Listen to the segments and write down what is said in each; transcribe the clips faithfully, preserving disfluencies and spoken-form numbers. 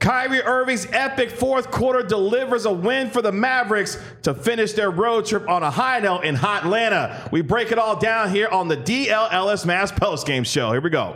Kyrie Irving's epic fourth quarter delivers a win for the Mavericks to finish their road trip on a high note in hot Atlanta. We break it all down here on the D L L S Mavs postgame show. Here we go.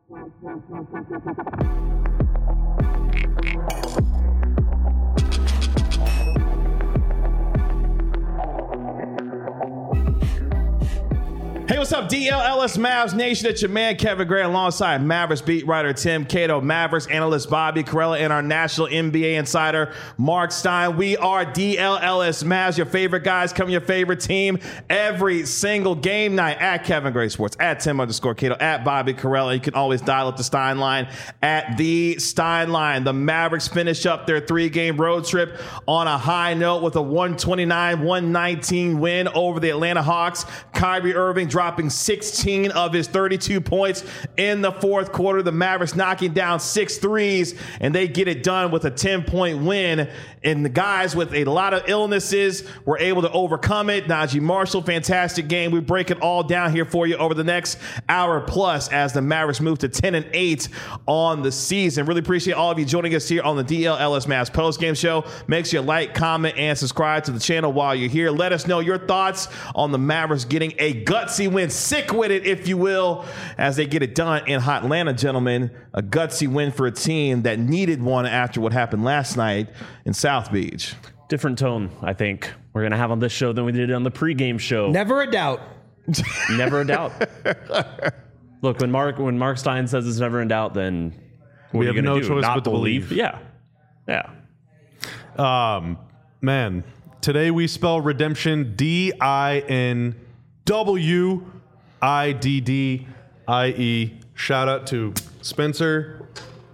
Hey, what's up, D L L S Mavs Nation? It's your man, Kevin Gray, alongside Mavericks beat writer Tim Cato, Mavericks analyst Bobby Carella, and our national N B A insider, Mark Stein. We are D L L S Mavs, your favorite guys, come your favorite team every single game night at Kevin Gray Sports, at Tim underscore Cato, at Bobby Carella. You can always dial up the Stein line at the Stein line. The Mavericks finish up their three-game road trip on a high note with a one twenty-nine one nineteen win over the Atlanta Hawks. Kyrie Irving dropping sixteen of his thirty-two points in the fourth quarter. The Mavericks knocking down six threes, and they get it done with a ten-point win. And the guys with a lot of illnesses were able to overcome it. Najee Marshall, fantastic game. We break it all down here for you over the next hour plus as the Mavericks move to ten and eight on the season. Really appreciate all of you joining us here on the D L L S Mavs postgame show. Make sure you like, comment, and subscribe to the channel while you're here. Let us know your thoughts on the Mavericks getting a gutsy win, sick with it, if you will, as they get it done in hot Atlanta, gentlemen. A gutsy win for a team that needed one after what happened last night in South Beach. Different tone, I think, we're going to have on this show than we did on the pregame show. Never a doubt. Never a doubt. Look, when Mark when Mark Stein says it's never in doubt, then what we are you have no going to do? choice Not but to believe? believe. Yeah. Yeah. Um, man, today we spell redemption D I N W I D D I E. Shout out to Spencer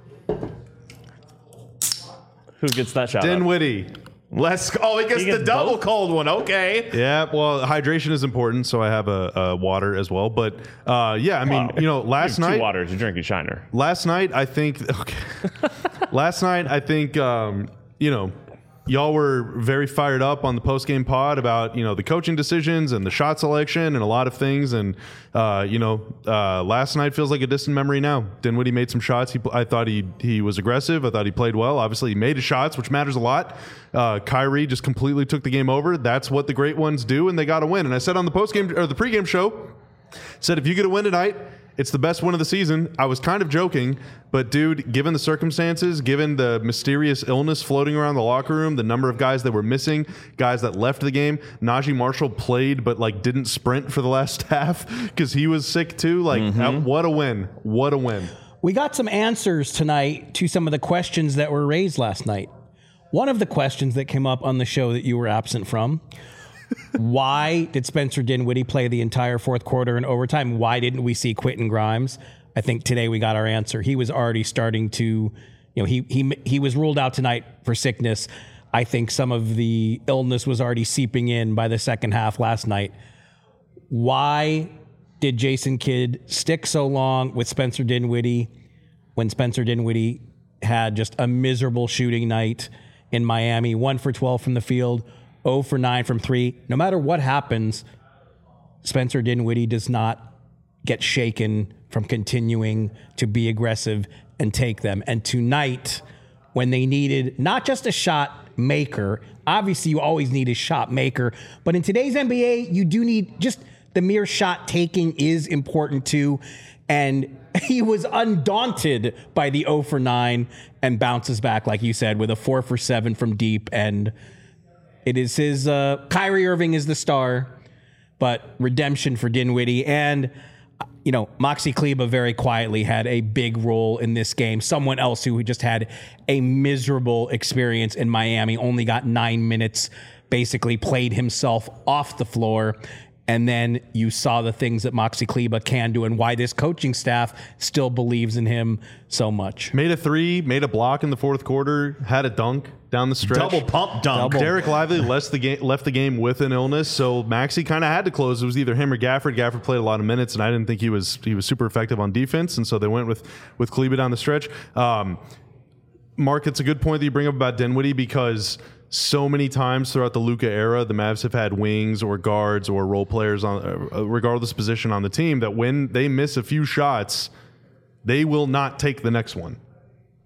Who gets that shout out? Dinwiddie. Let's go. Oh, he gets, He gets the double both? cold one. Okay. Yeah, well, hydration is important, so I have a, a water as well. But uh, yeah, I mean, Wow. you know, last You have night, two waters. You're drinking Shiner. last night I think, okay, last night I think, um, you know, y'all were very fired up on the post-game pod about, you know, the coaching decisions and the shot selection and a lot of things. And, uh, you know, uh, last night feels like a distant memory now. Dinwiddie made some shots. He, I thought he he was aggressive. I thought he played well. Obviously, he made his shots, which matters a lot. Uh, Kyrie just completely took the game over. That's what the great ones do, and they got to win. And I said on the post-game or the pregame show, said if you get a win tonight, it's the best win of the season. I was kind of joking, but dude, given the circumstances, given the mysterious illness floating around the locker room, the number of guys that were missing, guys that left the game, Najee Marshall played but like didn't sprint for the last half because he was sick too. Like, Mm-hmm. uh, what a win. What a win. We got some answers tonight to some of the questions that were raised last night. One of the questions that came up on the show that you were absent from, why did Spencer Dinwiddie play the entire fourth quarter in overtime? Why didn't we see Quentin Grimes? I think today we got our answer. He was already starting to, you know, he he he was ruled out tonight for sickness. I think some of the illness was already seeping in by the second half last night. Why did Jason Kidd stick so long with Spencer Dinwiddie when Spencer Dinwiddie had just a miserable shooting night in Miami? One for twelve from the field, zero for nine from three. No matter what happens, Spencer Dinwiddie does not get shaken from continuing to be aggressive and take them. And tonight, when they needed not just a shot maker, obviously you always need a shot maker, but in today's N B A, you do need just the mere shot taking is important too. And he was undaunted by the zero for nine and bounces back, like you said, with a four for seven from deep. And it is his, uh, Kyrie Irving is the star, but redemption for Dinwiddie. And, you know, Maxi Kleber very quietly had a big role in this game. Someone else who just had a miserable experience in Miami, only got nine minutes, basically played himself off the floor. And then you saw the things that Maxi Kleber can do and why this coaching staff still believes in him so much. Made a three, made a block in the fourth quarter, had a dunk down the stretch. Double pump dunk. Double. Derek Lively left the game left the game with an illness, so Maxi kind of had to close. It was either him or Gafford. Gafford played a lot of minutes, and I didn't think he was he was super effective on defense, and so they went with with Kleber down the stretch. Um, Mark, it's a good point that you bring up about Dinwiddie because so many times throughout the Luka era, the Mavs have had wings or guards or role players on, uh, regardless position on the team, that when they miss a few shots, they will not take the next one.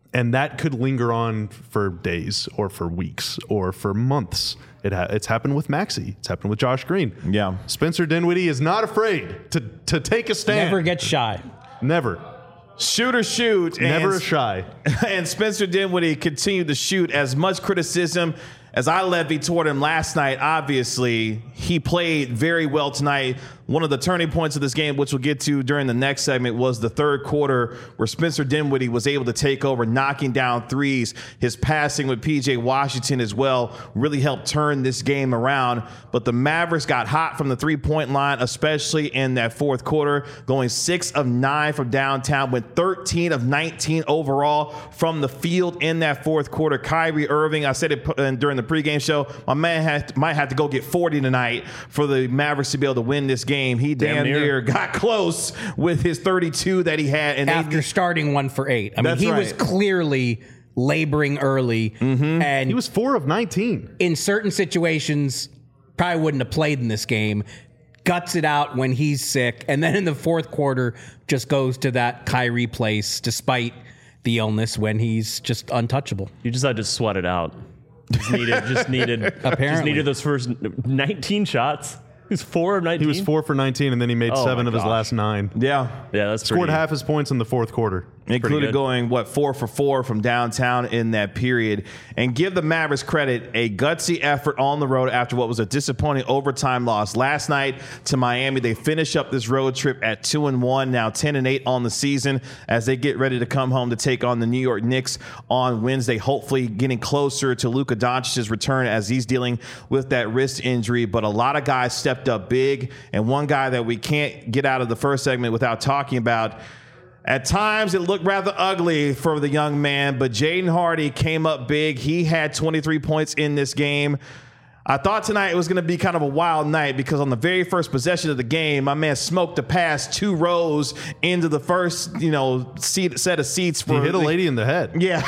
and that could linger on for days or for weeks or for months. It ha- it's happened with Maxey. It's happened with Josh Green. Yeah. Spencer Dinwiddie is not afraid to to take a stand. Never get shy. Never. Shoot or shoot. Never and, shy. And Spencer Dinwiddie continued to shoot. As much criticism as I levied toward him last night, obviously, he played very well tonight. One of the turning points of this game, which we'll get to during the next segment, was the third quarter where Spencer Dinwiddie was able to take over, knocking down threes. His passing with P J Washington as well really helped turn this game around. But the Mavericks got hot from the three-point line, especially in that fourth quarter, going six of nine from downtown, went thirteen of nineteen overall from the field in that fourth quarter. Kyrie Irving, I said it during the pregame show, my man has, might have to go get forty tonight for the Mavericks to be able to win this game. He damn, damn near. near got close with his thirty-two that he had. And after they, starting one for eight. I mean, That's he right. was clearly laboring early. Mm-hmm. And he was four of nineteen. In certain situations, probably wouldn't have played in this game. Guts it out when he's sick. And then in the fourth quarter, just goes to that Kyrie place despite the illness when he's just untouchable. You just had to sweat it out. Just needed, just needed, Apparently. just needed those first nineteen shots. He was four of nineteen. He was four for nineteen, and then he made Oh seven my of his gosh. last nine. Yeah. Yeah, that's Scored pretty, half his points in the fourth quarter. Included going, what, four for four from downtown in that period. And give the Mavericks credit, a gutsy effort on the road after what was a disappointing overtime loss last night to Miami. They finish up this road trip at two and one, now ten and eight on the season as they get ready to come home to take on the New York Knicks on Wednesday, hopefully getting closer to Luka Doncic's return as he's dealing with that wrist injury. But a lot of guys stepped up big, and one guy that we can't get out of the first segment without talking about. At times, it looked rather ugly for the young man, but Jaden Hardy came up big. He had twenty-three points in this game. I thought tonight it was going to be kind of a wild night because on the very first possession of the game, my man smoked a pass two rows into the first, you know, seat, set of seats. For He hit a the, lady in the head. Yeah,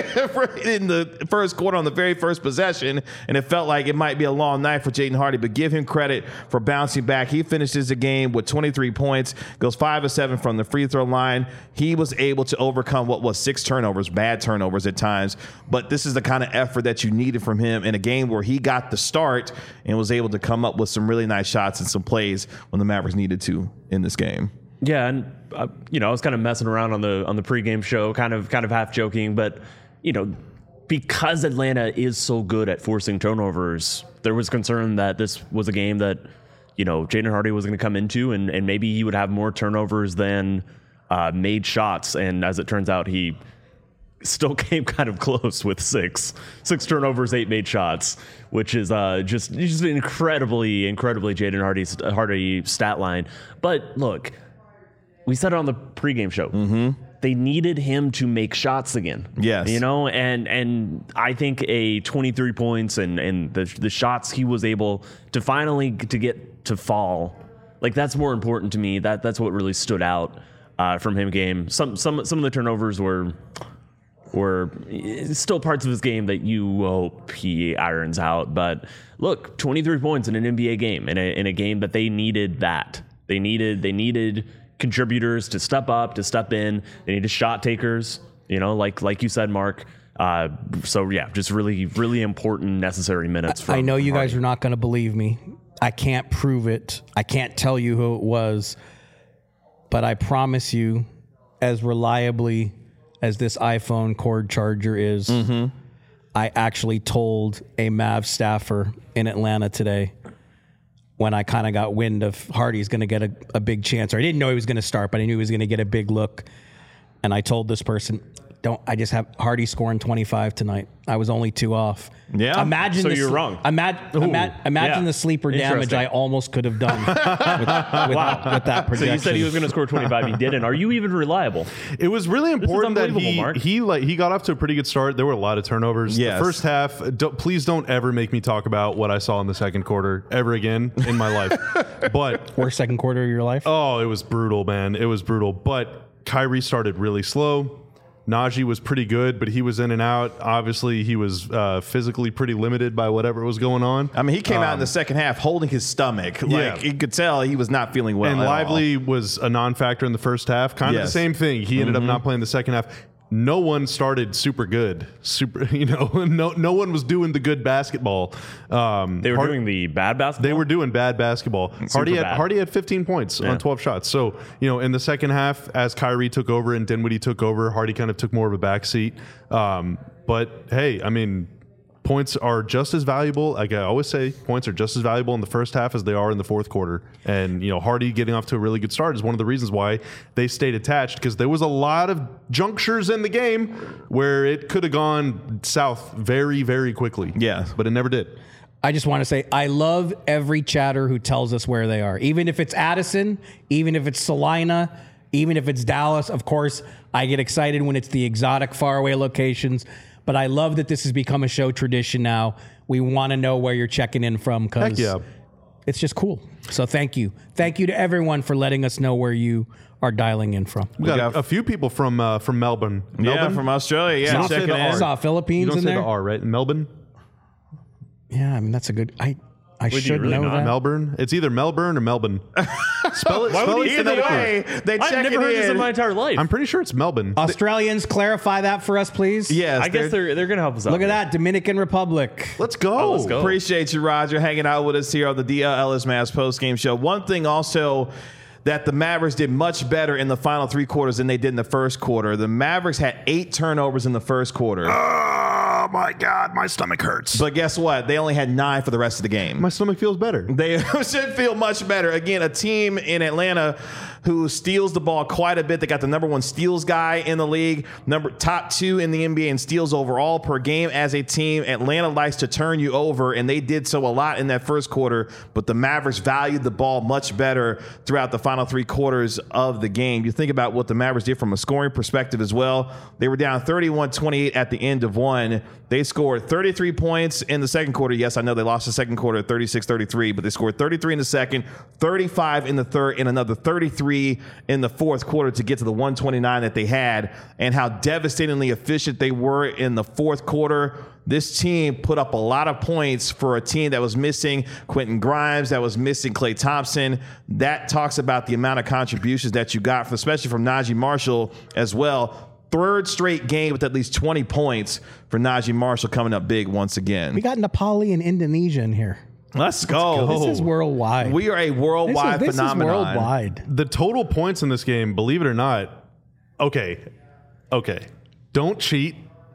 in the first quarter on the very first possession, and it felt like it might be a long night for Jaden Hardy, but give him credit for bouncing back. He finishes the game with twenty-three points, goes five of seven from the free throw line. He was able to overcome what was six turnovers, bad turnovers at times, but this is the kind of effort that you needed from him in a game where he got the start and was able to come up with some really nice shots and some plays when the Mavericks needed to in this game. Yeah, and uh, you know, I was kind of messing around on the on the pregame show, kind of kind of half joking, but you know, because Atlanta is so good at forcing turnovers, there was concern that this was a game that, you know, Jaden Hardy was going to come into, and and maybe he would have more turnovers than uh, made shots, and as it turns out, he still came kind of close with six six turnovers, eight made shots, which is uh, just just an incredibly, incredibly Jaden Hardy's Hardy stat line. But look, we said it on the pregame show. Mm-hmm. They needed him to make shots again. Yes, you know, and and I think a twenty-three points and and the the shots he was able to finally to get to fall, like that's more important to me. That that's what really stood out uh, from him. Game. Some some some of the turnovers were. Or still parts of his game that you hope he irons out. But look, twenty-three points in an N B A game, in a, in a game that they needed that. They needed they needed contributors to step up, to step in. They needed shot takers, you know, like like you said, Mark. Uh, so, yeah, just really, really important, necessary minutes. From I know you Hardy. guys are not going to believe me. I can't prove it. I can't tell you who it was. But I promise you, as reliably as this iPhone cord charger is, mm-hmm. I actually told a Mavs staffer in Atlanta today when I kind of got wind of Hardy's going to get a, a big chance. Or I didn't know he was going to start, but I knew he was going to get a big look. And I told this person, don't I just have Hardy scoring twenty-five tonight. I was only two off. Yeah. So Imagine the, you're wrong. Ima- ima- imagine yeah. the sleeper damage I almost could have done with, with, Wow. with that projection. So you said he was going to score twenty-five. He didn't. Are you even reliable? It was really important that unbelievable, he Mark. he like he got off to a pretty good start. There were a lot of turnovers. Yes. The first half. Don't, please don't ever make me talk about what I saw in the second quarter ever again in my life. But Worst second quarter of your life? oh, it was brutal, man. It was brutal. But Kyrie started really slow. Najee was pretty good, but he was in and out. Obviously, he was uh, physically pretty limited by whatever was going on. I mean, he came um, out in the second half holding his stomach. Like, Yeah. you could tell he was not feeling well And at Lively all. was a non-factor in the first half. Kind of Yes. the same thing. He ended Mm-hmm. up not playing the second half. no one started super good. Super, you know, no no one was doing the good basketball. Um, They were Hard- doing the bad basketball. They were doing bad basketball. Hardy had bad. Hardy had fifteen points Yeah. on twelve shots. So, you know, in the second half, as Kyrie took over and Dinwiddie took over, Hardy kind of took more of a backseat. Um, but hey, I mean, points are just as valuable. Like I always say, points are just as valuable in the first half as they are in the fourth quarter. And, you know, Hardy getting off to a really good start is one of the reasons why they stayed attached, because there was a lot of junctures in the game where it could have gone south very, very quickly. Yeah. But it never did. I just want to say I love every chatter who tells us where they are. Even if it's Addison, even if it's Salina, even if it's Dallas. Of course, I get excited when it's the exotic faraway locations. But I love that this has become a show tradition now. We want to know where you're checking in from Heck because yeah. it's just cool. So thank you. Thank you to everyone for letting us know where you are dialing in from. We got, got- a, a few people from uh, from Melbourne. Yeah, Melbourne? from Australia. You Yeah, don't say checking the in. R. Saw You Philippines don't in say there. the R, right? Melbourne? Yeah, I mean that's a good. I I you should really know not? that. Melbourne? It's either Melbourne or Melbourne. Spell it. Why spell would it he say Either that? way, they I've check never it heard this in in. my entire life. I'm pretty sure it's Melbourne. Australians, clarify that for us, please. Yes, I guess they're they're gonna help us out. Look at here. that, Dominican Republic. Let's go. Oh, let's go. Appreciate you, Roger, hanging out with us here on the D L Ellis Mavs post-game show. One thing also that the Mavericks did much better in the final three quarters than they did in the first quarter. The Mavericks had eight turnovers in the first quarter. Oh my God, my stomach hurts. But guess what? They only had nine for the rest of the game. my stomach feels better. They should feel much better. Again, a team in Atlanta who steals the ball quite a bit. They got the number one steals guy in the league, number top two in the N B A in steals overall per game as a team. Atlanta likes to turn you over, and they did so a lot in that first quarter, but the Mavericks valued the ball much better throughout the final three quarters of the game. You think about what the Mavericks did from a scoring perspective as well. They were down thirty-one twenty-eight at the end of one. They scored thirty-three points in the second quarter. Yes, I know they lost the second quarter thirty-six thirty-three, but they scored thirty-three in the second, thirty-five in the third, and another thirty-three in the fourth quarter to get to the one twenty-nine that they had. And how devastatingly efficient they were in the fourth quarter. This team put up a lot of points for a team that was missing Quentin Grimes, that was missing Klay Thompson. That talks about the amount of contributions that you got, especially from Najee Marshall as well. Third straight game with at least twenty points for Najee Marshall, coming up big once again. We got Nepali and Indonesia in here. Let's go. This is worldwide. We are a worldwide this is, this phenomenon. is worldwide. The total points in this game, believe it or not, okay, okay, don't cheat.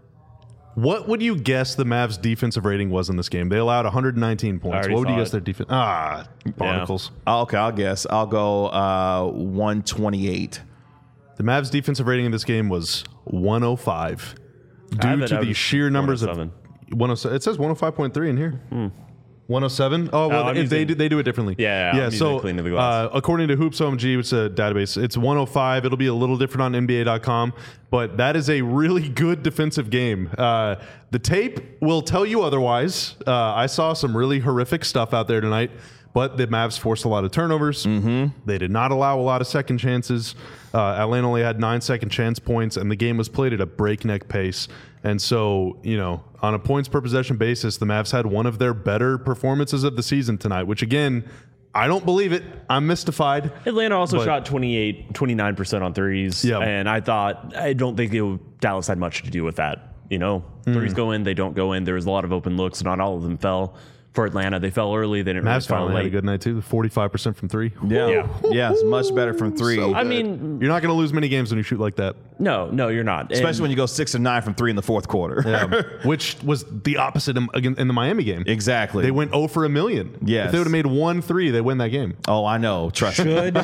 What would you guess the Mavs' defensive rating was in this game? They allowed one hundred nineteen points. already What would you saw guess it. their defense? Ah, barnacles. Okay, I'll guess. I'll go uh, one twenty-eight. The Mavs' defensive rating in this game was one oh five. I have Due it to out the as sheer numbers of one one oh seven. It says one oh five point three in here. one oh seven? Oh, well, Oh, I'm if they using- do, they do it differently. Yeah, yeah, yeah. I'm So, using clean to the glass. uh, according to Hoops O M G, which is a database, it's one oh five. It'll be a little different on N B A dot com, but that is a really good defensive game. Uh, the tape will tell you otherwise. Uh, I saw some really horrific stuff out there tonight, but the Mavs forced a lot of turnovers. Mm-hmm. They did not allow a lot of second chances. Uh, Atlanta only had nine second chance points, and the game was played at a breakneck pace. And so, you know, on a points per possession basis, the Mavs had one of their better performances of the season tonight, which again, I don't believe it. I'm mystified. Atlanta also But- shot twenty-eight, twenty-nine percent on threes. Yeah. And I thought, I don't think it, Dallas had much to do with that. You know, Hmm. threes go in, they don't go in. There was a lot of open looks. Not all of them fell. For Atlanta, they fell early. They didn't really Mavs fall finally had a late. good night too. forty-five percent from three. Yeah. Yeah. Yeah, it's much better from three. So I good. mean, You're not going to lose many games when you shoot like that. no, no, you're not. Especially when you go six and nine from three in the fourth quarter. Yeah. Which was the opposite in, again in the Miami game. Exactly. They went zero for a million. Yes. If they would have made one three, they win that game. Oh, I know. Trust me. Should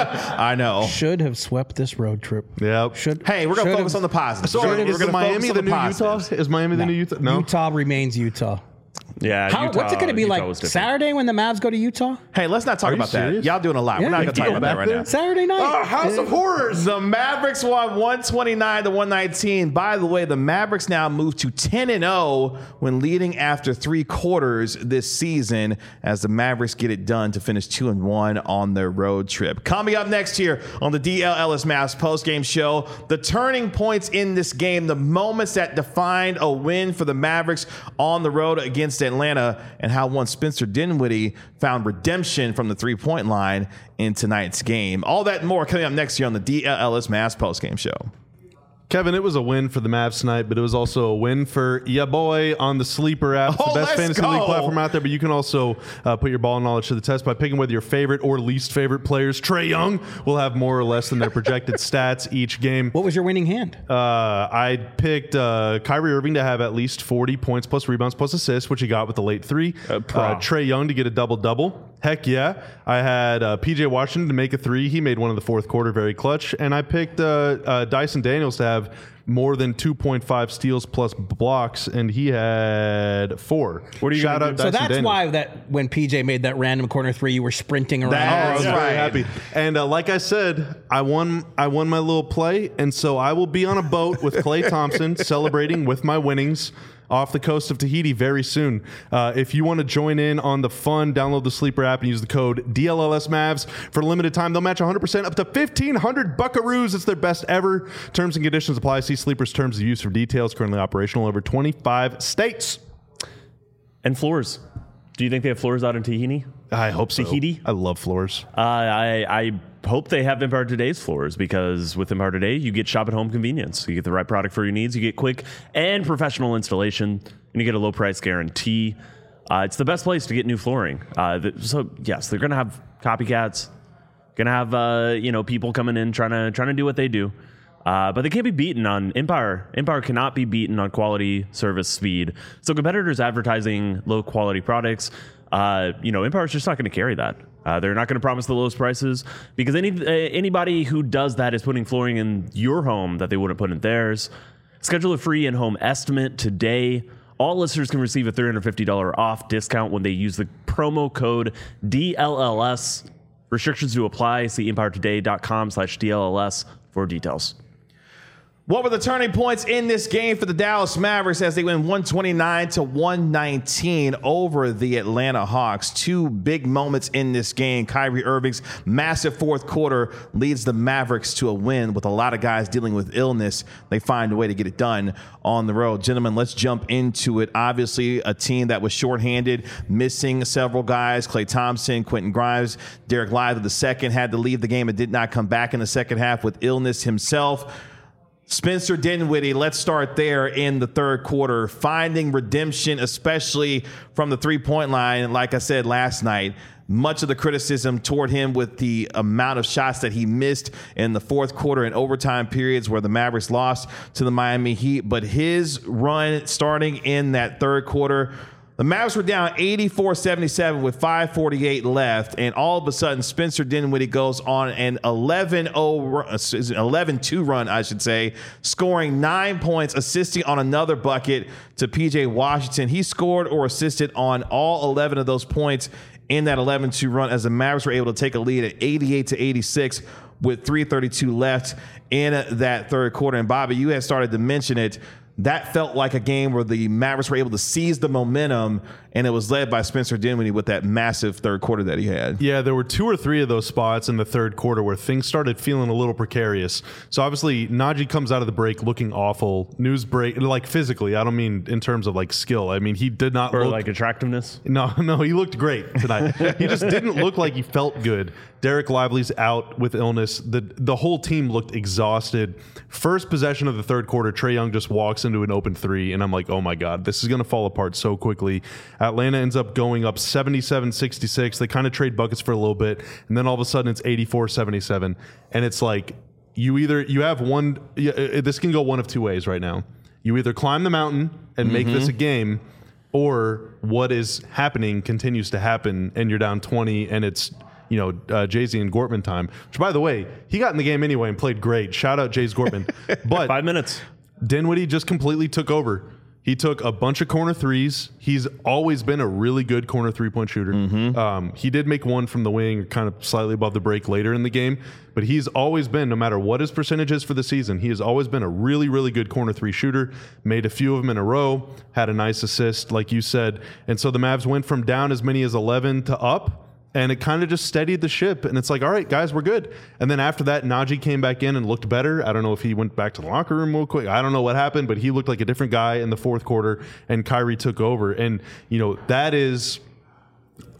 I know. should have swept this road trip. Yeah. Should Hey, we're going to should focus have- on the positives. So we're is gonna the Miami focus on the new positives. Utah? Is Miami the new Utah? No. Utah remains Utah. yeah, How, Utah, what's it going to be Utah like was different. Saturday when the Mavs go to Utah? Hey, let's not talk you about serious? that. Y'all doing a lot. we're not Yeah, going to talk yeah. about that Back right there? now. Saturday night. Oh, House of Horrors. The Mavericks won one twenty-nine to one nineteen. By the way, the Mavericks now move to ten and oh when leading after three quarters this season as the Mavericks get it done to finish two and one on their road trip. Coming up next here on the D L Ellis Mavs postgame show, the turning points in this game, the moments that defined a win for the Mavericks on the road against Atlanta, and how one Spencer Dinwiddie found redemption from the three-point line in tonight's game. All that and more coming up next year on the D L Ellis Mavs postgame show. Kevin, it was a win for the Mavs tonight, but it was also a win for ya boy on the Sleeper app. It's Oh, the best let's fantasy go. league platform out there, but you can also uh, put your ball knowledge to the test by picking whether your favorite or least favorite players. Trae Young will have more or less than their projected stats each game. What was your winning hand? Uh, I picked uh, Kyrie Irving to have at least forty points plus rebounds plus assists, which he got with the late three. Uh, uh, Trae Young to get a double-double. Heck yeah. I had uh, P J Washington to make a three. He made one in the fourth quarter, very clutch. And I picked uh, uh, Dyson Daniels to have more than two point five steals plus blocks, and he had four. What are you Shout gonna out do? So Dyson that's Daniels. why that when P J made that random corner three, you were sprinting around. That's I was right. very happy. And uh, like I said, I won I won my little play, and so I will be on a boat with Klay Thompson celebrating with my winnings off the coast of Tahiti very soon. Uh, if you want to join in on the fun, download the Sleeper app and use the code D L L S Mavs. For a limited time, they'll match one hundred percent up to fifteen hundred buckaroos. It's their best ever. Terms and conditions apply. See Sleeper's terms of use for details. Currently operational in over twenty-five states. And floors. Do you think they have floors out in Tahiti? I hope so. Tahiti? I love floors. Uh, I, I hope they have Empire Today's floors, because with Empire Today, you get shop at home convenience. You get the right product for your needs. You get quick and professional installation, and you get a low price guarantee. Uh, it's the best place to get new flooring. Uh, th- so yes, they're going to have copycats, going to have uh, you know people coming in trying to trying to do what they do. Uh, but they can't be beaten on Empire. Empire cannot be beaten on quality, service, speed. So competitors advertising low quality products, uh, you know, Empire's just not going to carry that. Uh, they're not going to promise the lowest prices, because any uh, anybody who does that is putting flooring in your home that they wouldn't put in theirs. Schedule a free in-home estimate today. All listeners can receive a three hundred fifty dollars off discount when they use the promo code D L L S. Restrictions do apply. See empiretoday.com slash DLLS for details. What were the turning points in this game for the Dallas Mavericks as they win one twenty-nine to one nineteen over the Atlanta Hawks? Two big moments in this game. Kyrie Irving's massive fourth quarter leads the Mavericks to a win with a lot of guys dealing with illness. They find a way to get it done on the road. Gentlemen, let's jump into it. Obviously, a team that was shorthanded, missing several guys. Klay Thompson, Quentin Grimes, Derek Lively the second had to leave the game and did not come back in the second half with illness himself. Spencer Dinwiddie, let's start there in the third quarter, finding redemption, especially from the three-point line. Like I said last night, much of the criticism toward him with the amount of shots that he missed in the fourth quarter and overtime periods where the Mavericks lost to the Miami Heat. But his run starting in that third quarter, the Mavs were down eighty-four seventy-seven with five forty-eight left, and all of a sudden Spencer Dinwiddie goes on an eleven two run, I should say, scoring nine points, assisting on another bucket to P J Washington. He scored or assisted on all eleven of those points in that eleven two run as the Mavericks were able to take a lead at eighty-eight to eighty-six with three thirty-two left in that third quarter. And Bobby, you had started to mention it. That felt like a game where the Mavericks were able to seize the momentum, and it was led by Spencer Dinwiddie with that massive third quarter that he had. Yeah, there were two or three of those spots in the third quarter where things started feeling a little precarious. So obviously, Najee comes out of the break looking awful. News break, like physically. I don't mean in terms of like skill. I mean, he did not Or look like attractiveness. No, no, he looked great tonight. He just didn't look like he felt good. Derek Lively's out with illness. The the whole team looked exhausted. First possession of the third quarter, Trae Young just walks into an open three, and I'm like, oh my God, this is going to fall apart so quickly. Atlanta ends up going up seventy-seven sixty-six. They kind of trade buckets for a little bit, and then all of a sudden it's eighty-four seventy-seven. And it's like, you either, you have one, this can go one of two ways right now. You either climb the mountain and make Mm-hmm. this a game, or what is happening continues to happen, and you're down twenty, and it's, you know, uh, Jay-Z and Gortman time. Which, by the way, he got in the game anyway and played great. Shout out Jays Gortman. But Five minutes. Dinwiddie just completely took over. He took a bunch of corner threes. He's always been a really good corner three-point shooter. Mm-hmm. Um, he did make one from the wing, kind of slightly above the break later in the game, but he's always been, no matter what his percentage is for the season, he has always been a really, really good corner three shooter. Made a few of them in a row, had a nice assist, like you said. And so the Mavs went from down as many as eleven to up, and it kind of just steadied the ship. And it's like, all right, guys, we're good. And then after that, Najee came back in and looked better. I don't know if he went back to the locker room real quick. I don't know what happened, but he looked like a different guy in the fourth quarter, and Kyrie took over. And, you know, that is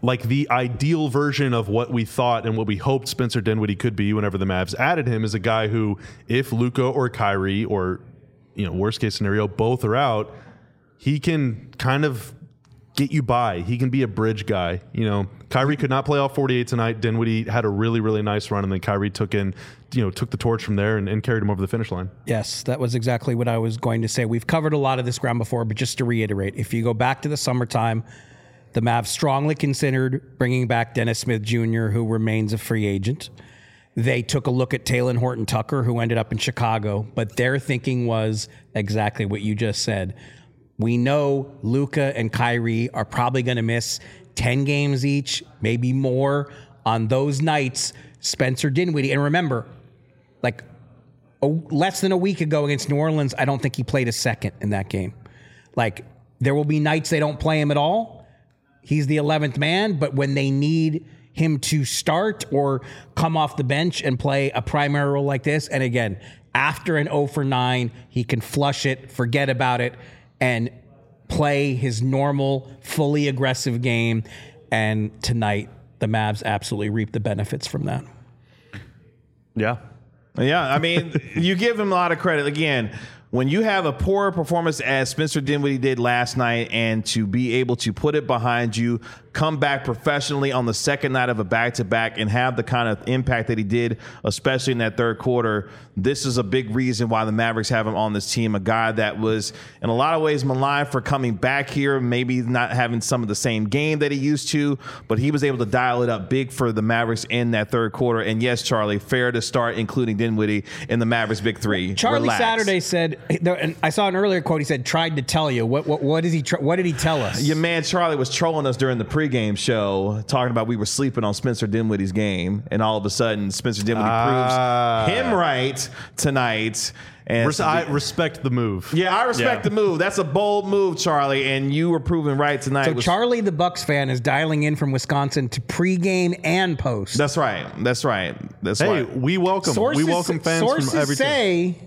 like the ideal version of what we thought and what we hoped Spencer Dinwiddie could be whenever the Mavs added him, is a guy who, if Luka or Kyrie or, you know, worst case scenario, both are out, he can kind of get you by. He can be a bridge guy. You know, Kyrie could not play all forty-eight tonight. Dinwiddie had a really, really nice run, and then Kyrie took in, you know, took the torch from there and, and carried him over the finish line. Yes, that was exactly what I was going to say. We've covered a lot of this ground before, but just to reiterate, if you go back to the summertime, the Mavs strongly considered bringing back Dennis Smith Junior, who remains a free agent. They took a look at Talen Horton-Tucker, who ended up in Chicago, but their thinking was exactly what you just said. We know Luka and Kyrie are probably going to miss ten games each, maybe more. On those nights, Spencer Dinwiddie, and remember, like a, less than a week ago against New Orleans, I don't think he played a second in that game. Like, there will be nights they don't play him at all. He's the eleventh man, but when they need him to start or come off the bench and play a primary role like this, and again, after an oh for nine, he can flush it, forget about it, and play his normal, fully aggressive game. And tonight, the Mavs absolutely reap the benefits from that. Yeah. Yeah, I mean, you give him a lot of credit. Again, when you have a poor performance as Spencer Dinwiddie did last night, and to be able to put it behind you, come back professionally on the second night of a back-to-back and have the kind of impact that he did, especially in that third quarter, this is a big reason why the Mavericks have him on this team. A guy that was in a lot of ways maligned for coming back here, maybe not having some of the same game that he used to, but he was able to dial it up big for the Mavericks in that third quarter. And yes, Charlie, fair to start including Dinwiddie in the Mavericks big three. Charlie Relax. Saturday said, and I saw an earlier quote, he said, tried to tell you. What what, what, is he tr- what did he tell us? Your man Charlie was trolling us during the pregame show, talking about we were sleeping on Spencer Dinwiddie's game, and all of a sudden Spencer Dinwiddie Ah. proves him right tonight. And Res- I respect the move. yeah, I respect Yeah. the move. That's a bold move, Charlie, and you were proven right tonight. So Was- Charlie, the Bucks fan, is dialing in from Wisconsin to pregame and post. That's right. That's right. That's Hey, right. we welcome. Sources, we welcome fans sources from every team. say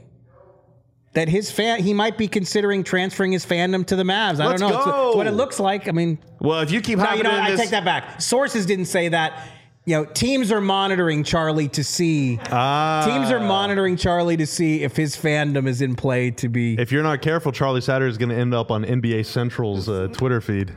that his fan, he might be considering transferring his fandom to the Mavs. I Let's don't know. It's, go. it's what it looks like. I mean, Well, if you keep no, hopping you know, in I this, take that back. Sources didn't say that. You know, teams are monitoring Charlie to see. Ah. Teams are monitoring Charlie to see if his fandom is in play to be. If you're not careful, Charlie Saturday is going to end up on N B A Central's uh, Twitter feed.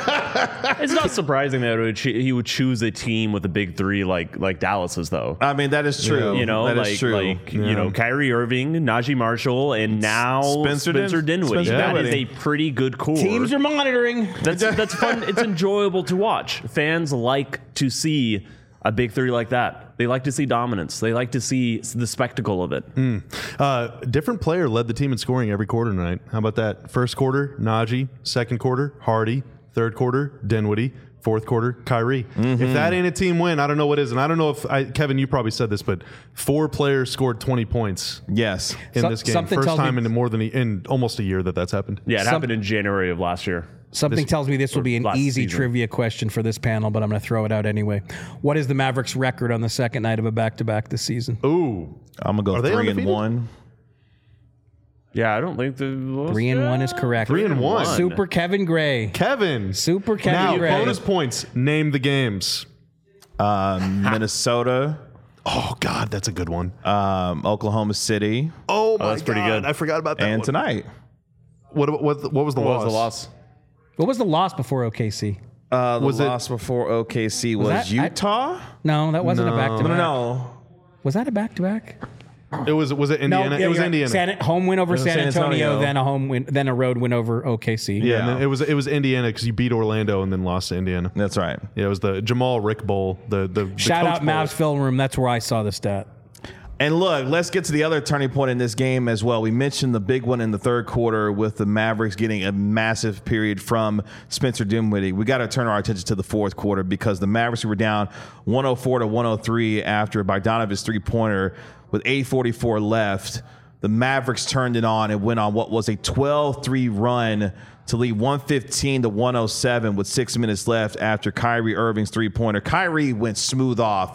It's not surprising that it would cho- he would choose a team with a big three like like Dallas's, though. I mean, that is true. You know, that like, is true. like Yeah. you know, Kyrie Irving, Najee Marshall, and now Spencer Spencer, Din- Dinwiddie. Spencer That is Dinwiddie. a pretty good core. Teams are monitoring. That's that's fun. It's enjoyable to watch. Fans like to see a big three like that. They like to see dominance. They like to see the spectacle of it. Uh, different player led the team in scoring every quarter tonight. How about that? First quarter, Najee. Second quarter, Hardy. Third quarter, Dinwiddie. Fourth quarter, Kyrie. If that ain't a team win, I don't know what is. And I don't know if, I, Kevin, you probably said this, but four players scored twenty points Yes. in So- this game. something First tells me- time in more than a, in almost a year that that's happened. Yeah, it Some- happened in January of last year. Something tells me this will be an last easy season. trivia question for this panel, but I'm going to throw it out anyway. What is the Mavericks' record on the second night of a back-to-back this season? Ooh. I'm gonna go Are they three and undefeated? one. Yeah, I don't think the Three and one is correct. Three and one. Super Kevin Gray. Kevin. Super Kevin Now, Gray. bonus points. Name the games. Um, Minnesota, Oh, God, that's a good one. um, Oklahoma City, Oh, my that's pretty God. good. I forgot about that and one. tonight. What, what, what was the What loss? was the loss? What was the loss before O K C? Uh, the Was it- loss before O K C was, that- I- Utah. No, that wasn't a back-to-back. no, no. Was that a back-to-back? It was was it Indiana? yeah, it was you're right. Indiana. San, home win over was San San Antonio, Antonio. then a home win, then a road win over O K C. yeah, Yeah. and then it was it was Indiana because you beat Orlando and then lost to Indiana. That's right. Yeah, it was the Jamal Rick Bowl. The the, the Shout Coach out Bowl. Mavs film room. That's where I saw the stat. And look, let's get to the other turning point in this game as well. We mentioned the big one in the third quarter with the Mavericks getting a massive period from Spencer Dinwiddie. We got to turn our attention to the fourth quarter because the Mavericks were down one oh four to one oh three after Bogdanovic's three-pointer with eight forty-four left. The Mavericks turned it on and went on what was a twelve three run to lead one fifteen to one oh seven with six minutes left after Kyrie Irving's three-pointer. Kyrie went smooth off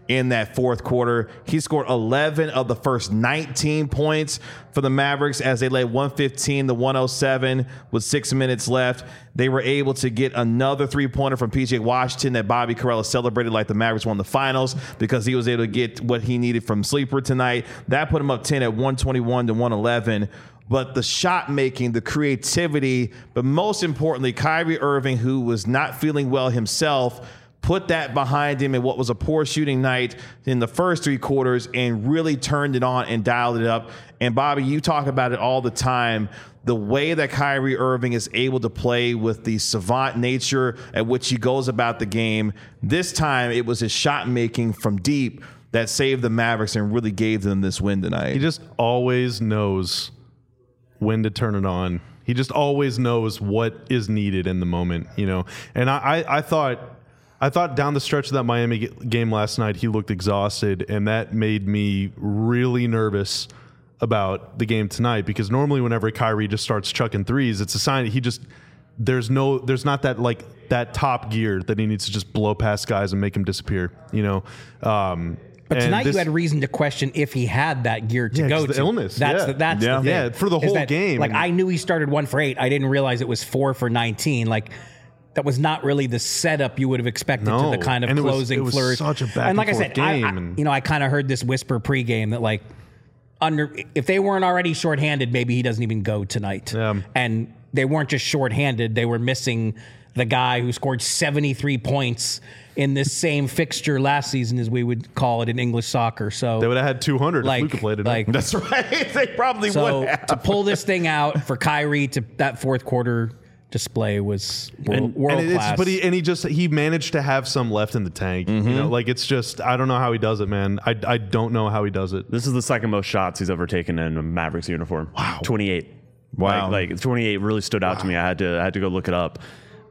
in that fourth quarter. He scored eleven of the first nineteen points for the Mavericks as they led one fifteen to one oh seven with six minutes left. They were able to get another three-pointer from P J Washington that Bobby Karalla celebrated like the Mavericks won the finals because he was able to get what he needed from Sleeper tonight. That put him up ten at one twenty-one to one eleven. But the shot making, the creativity, but most importantly, Kyrie Irving, who was not feeling well himself, put that behind him in what was a poor shooting night in the first three quarters and really turned it on and dialed it up. And Bobby, you talk about it all the time. The way that Kyrie Irving is able to play with the savant nature at which he goes about the game. This time it was his shot making from deep that saved the Mavericks and really gave them this win tonight. He just always knows when to turn it on. He just always knows what is needed in the moment, you know. And I, I, I thought, I thought down the stretch of that Miami game last night, he looked exhausted, and that made me really nervous about the game tonight because normally whenever Kyrie just starts chucking threes, it's a sign that he just there's no there's not that like that top gear that he needs to just blow past guys and make them disappear, you know. Um, But tonight this, you had reason to question if he had that gear to yeah, go the to. illness. That's yeah. the, that's yeah. the thing. Yeah, for the Is whole that, game. Like I knew he started one for eight. I didn't realize it was four for nineteen. Like that was not really the setup you would have expected No. to the kind of And it was- closing it was flourish. such a back and like and I said, forth I, game, I, and- you know, I kind of heard this whisper pregame that like under if they weren't already shorthanded, maybe he doesn't even go tonight. Yeah. And they weren't just shorthanded; they were missing the guy who scored seventy-three points in this same fixture last season, as we would call it in English soccer. So They would have had two hundred like, if Luka played it. like That's right. They probably so would have. to pull this thing out for Kyrie to that fourth quarter display was world, and, world and it's, class. but he and he just he managed to have some left in the tank. Mm-hmm. You know, like it's just I don't know how he does it, man. I, I don't know how he does it. This is the second most shots he's ever taken in a Mavericks uniform. Wow, twenty-eight. Wow. like, like twenty-eight really stood out wow. to me. I had to I had to go look it up,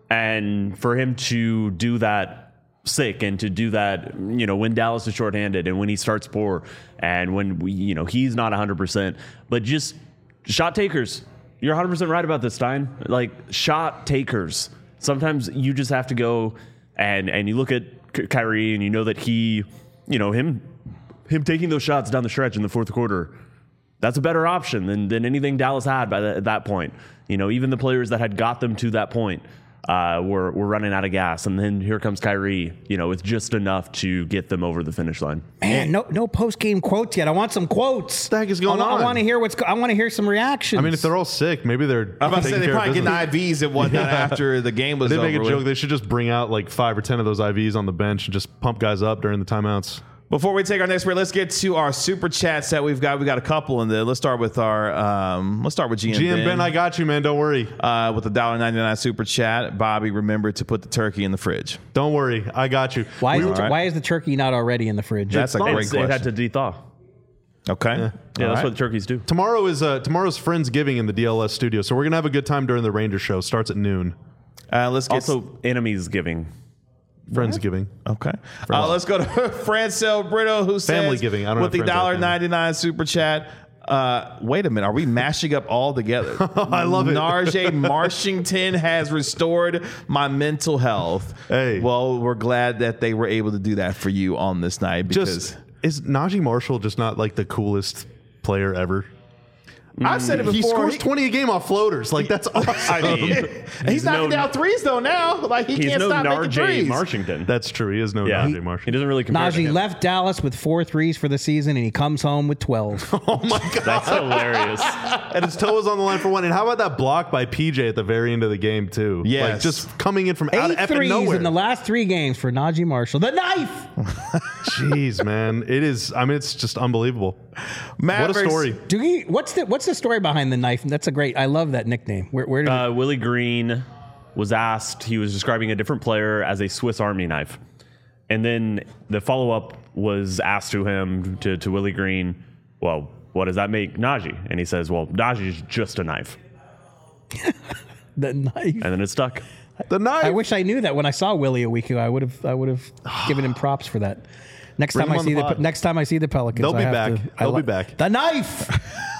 and for him to do that sick and to do that, you know, when Dallas is shorthanded and when he starts poor and when we, you know, he's not one hundred percent, but just shot takers. You're one hundred percent right about this, Stein. Like shot takers. Sometimes you just have to go and and you look at Kyrie and you know that he, you know, him him taking those shots down the stretch in the fourth quarter. That's a better option than than anything Dallas had by the, at that point. You know, even the players that had got them to that point uh, were were running out of gas, and then here comes Kyrie. You know, with just enough to get them over the finish line. Man, no no post game quotes yet. I want some quotes. What the heck is going I, on? I want to hear what's. Go- I want to hear some reactions. I mean, if they're all sick, maybe they're. I'm about to say taking they care of probably getting business. I Vs and whatnot Yeah. after the game was They over. make a with. joke. They should just bring out like five or ten of those I Vs on the bench and just pump guys up during the timeouts. Before we take our next break, let's get to our super chats that we've got. We got a couple in there. Let's start with our. Um, let's start with G M. G M Ben. Ben, I got you, man. Don't worry. Uh, with the one dollar ninety-nine super chat. Bobby, remember to put the turkey in the fridge. Don't worry. I got you. why is, All the, right. why is the turkey not already in the fridge? That's a great It's- question. It had to de-thaw. Okay. Yeah. Yeah, All that's right. what the turkeys do. Tomorrow is uh, tomorrow's Friendsgiving in the D L S studio, so we're gonna have a good time during the Ranger show. Starts at noon. Uh, let's get Also, enemies giving. Friendsgiving. Okay. Uh, let's go to Francel Brito, who Family says, giving. I don't with the have friends like one dollar that. ninety-nine super chat. Uh, wait a minute. Are we mashing up all together? I love it. Narjay Marshington has restored my mental health. Hey. Well, we're glad that they were able to do that for you on this night because Just is Najee Marshall just not like the coolest player ever? I've said it before. He scores he- twenty a game off floaters. Like that's awesome. I mean, he's, he's knocking no- down threes though now. Like he He's can't no stop making Narjay threes. Marshington. That's true. He is no yeah, Najee he Marshall. doesn't really compare to Najee him. left Dallas with four threes for the season, and he comes home with twelve. Oh my god! That's hilarious. And his toe was on the line for one. And how about that block by P J at the very end of the game too? Yes. like just coming in from out Eight of threes nowhere. in the last three games for Najee Marshall. The knife. Jeez, man, it is. I mean, it's just unbelievable. Mavericks, What a story! Do he? What's the What's the story behind the knife? That's a great. I love that nickname. Where, where did? Uh, Willie Green was asked, he was describing a different player as a Swiss Army knife. And then the follow-up was asked to him, to, to Willie Green, well, what does that make Najee? And he says, well, Najee is just a knife. the knife. And then it stuck. The knife. I wish I knew that when I saw Willie a week ago. I would have. I would have given him props for that. Next Bring time him I on see the the, pod. next time I see the Pelicans, They'll I be have back. to- I They'll be li- back. The knife.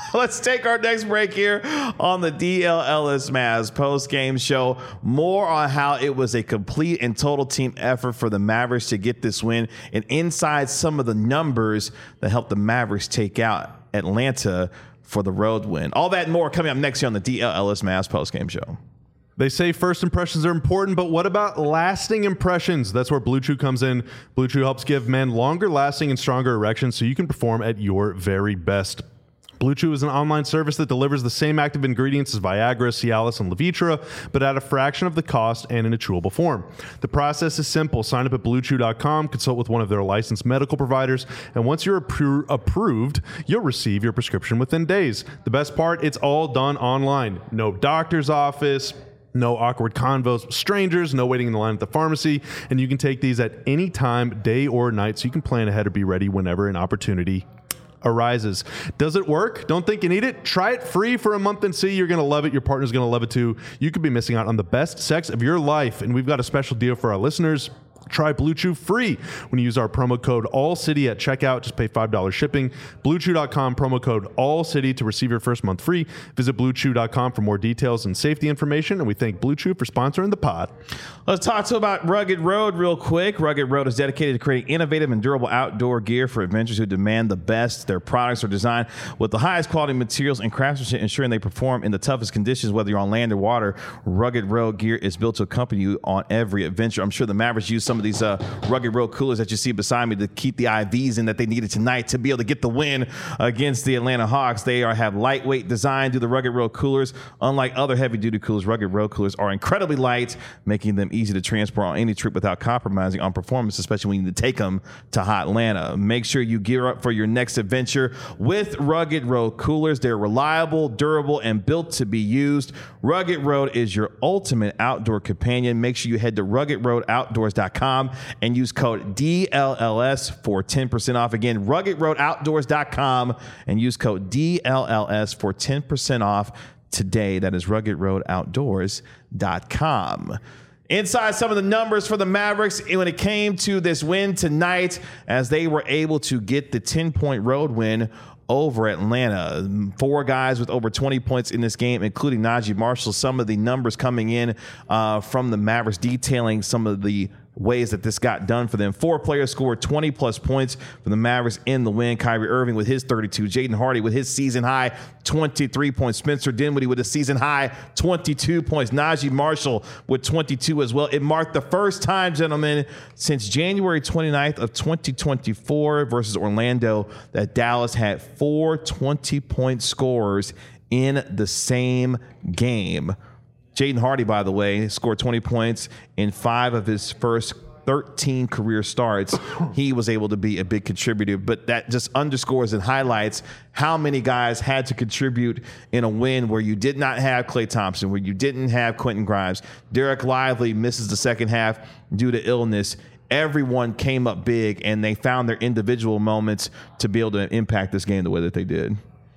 Let's take our next break here on the D L L S Mavs post-game show. More on how it was a complete and total team effort for the Mavericks to get this win, and inside some of the numbers that helped the Mavericks take out Atlanta for the road win. All that and more coming up next here on the D L L S Mavs post-game show. They say first impressions are important, but what about lasting impressions? That's where Blue Chew comes in. Blue Chew helps give men longer lasting and stronger erections so you can perform at your very best. Blue Chew is an online service that delivers the same active ingredients as Viagra, Cialis, and Levitra, but at a fraction of the cost and in a chewable form. The process is simple. Sign up at blue chew dot com, consult with one of their licensed medical providers, and once you're appro- approved, you'll receive your prescription within days. The best part, it's all done online. No doctor's office, no awkward convos with strangers, no waiting in the line at the pharmacy, and you can take these at any time, day or night, so you can plan ahead or be ready whenever an opportunity arises. Does it work? Don't think you need it? Try it free for a month and see. You're going to love it. Your partner's going to love it too. You could be missing out on the best sex of your life, and we've got a special deal for our listeners. Try Blue Chew free when you use our promo code ALLCITY at checkout. Just pay five dollars shipping. blue chew dot com, promo code ALLCITY to receive your first month free. Visit blue chew dot com for more details and safety information. And we thank Blue Chew for sponsoring the pod. Let's talk to about Rugged Road real quick. Rugged Road is dedicated to creating innovative and durable outdoor gear for adventurers who demand the best. Their products are designed with the highest quality materials and craftsmanship, ensuring they perform in the toughest conditions, whether you're on land or water. Rugged Road gear is built to accompany you on every adventure. I'm sure the Mavericks use some of these uh, Rugged Road coolers that you see beside me to keep the I Vs in that they needed tonight to be able to get the win against the Atlanta Hawks. They are have lightweight design to the Rugged Road coolers. Unlike other heavy-duty coolers, Rugged Road coolers are incredibly light, making them easy to transport on any trip without compromising on performance, especially when you need to take them to hot Atlanta. Make sure you gear up for your next adventure with Rugged Road coolers. They're reliable, durable, and built to be used. Rugged Road is your ultimate outdoor companion. Make sure you head to rugged road outdoors dot com and use code D L L S for ten percent off. Again, rugged road outdoors dot com and use code D L L S for ten percent off today. That is rugged road outdoors dot com. Inside some of the numbers for the Mavericks when it came to this win tonight, as they were able to get the ten-point road win over Atlanta. Four guys with over twenty points in this game, including Najee Marshall. Some of the numbers coming in uh, from the Mavericks detailing some of the ways that this got done for them. Four players scored twenty plus points for the Mavericks in the win. Kyrie Irving with his thirty-two, Jaden Hardy with his season high twenty-three points, Spencer Dinwiddie with a season high twenty-two points, Najee Marshall with twenty-two as well. It marked the first time, gentlemen, since January twenty-ninth of twenty twenty-four versus Orlando that Dallas had four twenty-point scorers in the same game. Jaden Hardy, by the way, scored twenty points in five of his first thirteen career starts. He was able to be a big contributor, but that just underscores and highlights how many guys had to contribute in a win where you did not have Klay Thompson, where you didn't have Quentin Grimes. Derek Lively misses the second half due to illness. Everyone came up big, and they found their individual moments to be able to impact this game the way that they did.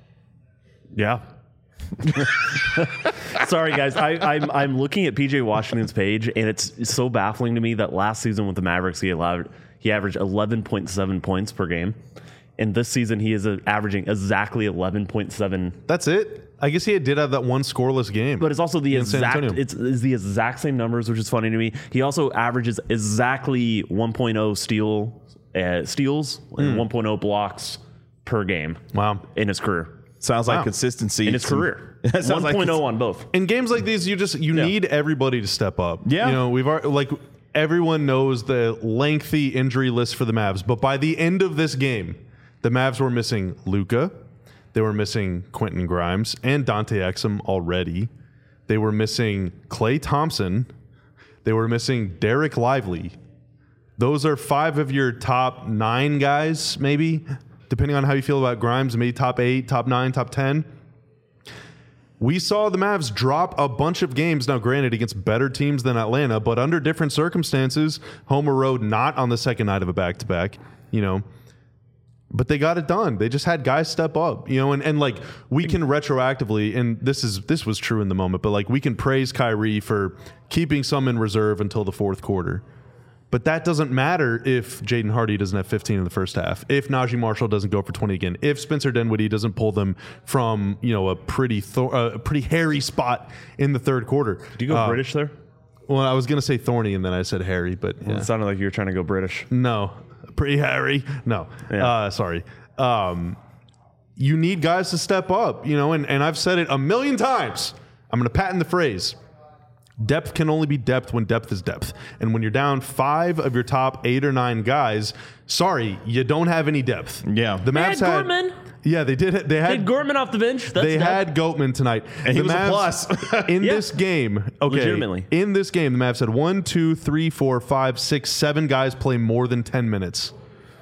Yeah. Sorry, guys. I, I'm I'm looking at P J Washington's page, and it's so baffling to me that last season with the Mavericks, he allowed he averaged eleven point seven points per game, and this season he is averaging exactly eleven point seven. That's it. I guess he did have that one scoreless game, but it's also the in exact it's, it's the exact same numbers, which is funny to me. He also averages exactly one point oh steal uh, steals and mm. one point oh blocks per game. Wow, in his career. Sounds like wow. consistency in his career. one point oh on both. In games like these, you just you yeah. need everybody to step up. Yeah, you know we've already, like everyone knows the lengthy injury list for the Mavs, but by the end of this game, the Mavs were missing Luka, they were missing Quentin Grimes and Dante Exum already. They were missing Klay Thompson. They were missing Derek Lively. Those are five of your top nine guys, maybe. Depending on how you feel about Grimes, maybe top eight, top nine, top ten. We saw the Mavs drop a bunch of games, now granted against better teams than Atlanta, but under different circumstances, home or road, not on the second night of a back-to-back, you know. But they got it done. They just had guys step up, you know, and, and like we can retroactively, and this is this was true in the moment, but like we can praise Kyrie for keeping some in reserve until the fourth quarter. But that doesn't matter if Jaden Hardy doesn't have fifteen in the first half, if Najee Marshall doesn't go for twenty again, if Spencer Dinwiddie doesn't pull them from, you know, a pretty th- uh, pretty hairy spot in the third quarter. Do you go uh, British there? Well, I was going to say thorny and then I said hairy, but yeah. It sounded like you were trying to go British. No, pretty hairy. No, Yeah. uh, sorry. Um, you need guys to step up, you know, and, and I've said it a million times. I'm going to patent the phrase. Depth can only be depth when depth is depth. And when you're down five of your top eight or nine guys, sorry, you don't have any depth. Yeah. The They Mavs had had Gorman. Yeah, they did. They They had had Gorman off the bench. That's they that. had Goatman tonight. And he The was a Mavs- plus. in Yeah. this game, okay. Legitimately. In this game, the Mavs had one, two, three, four, five, six, seven guys play more than ten minutes.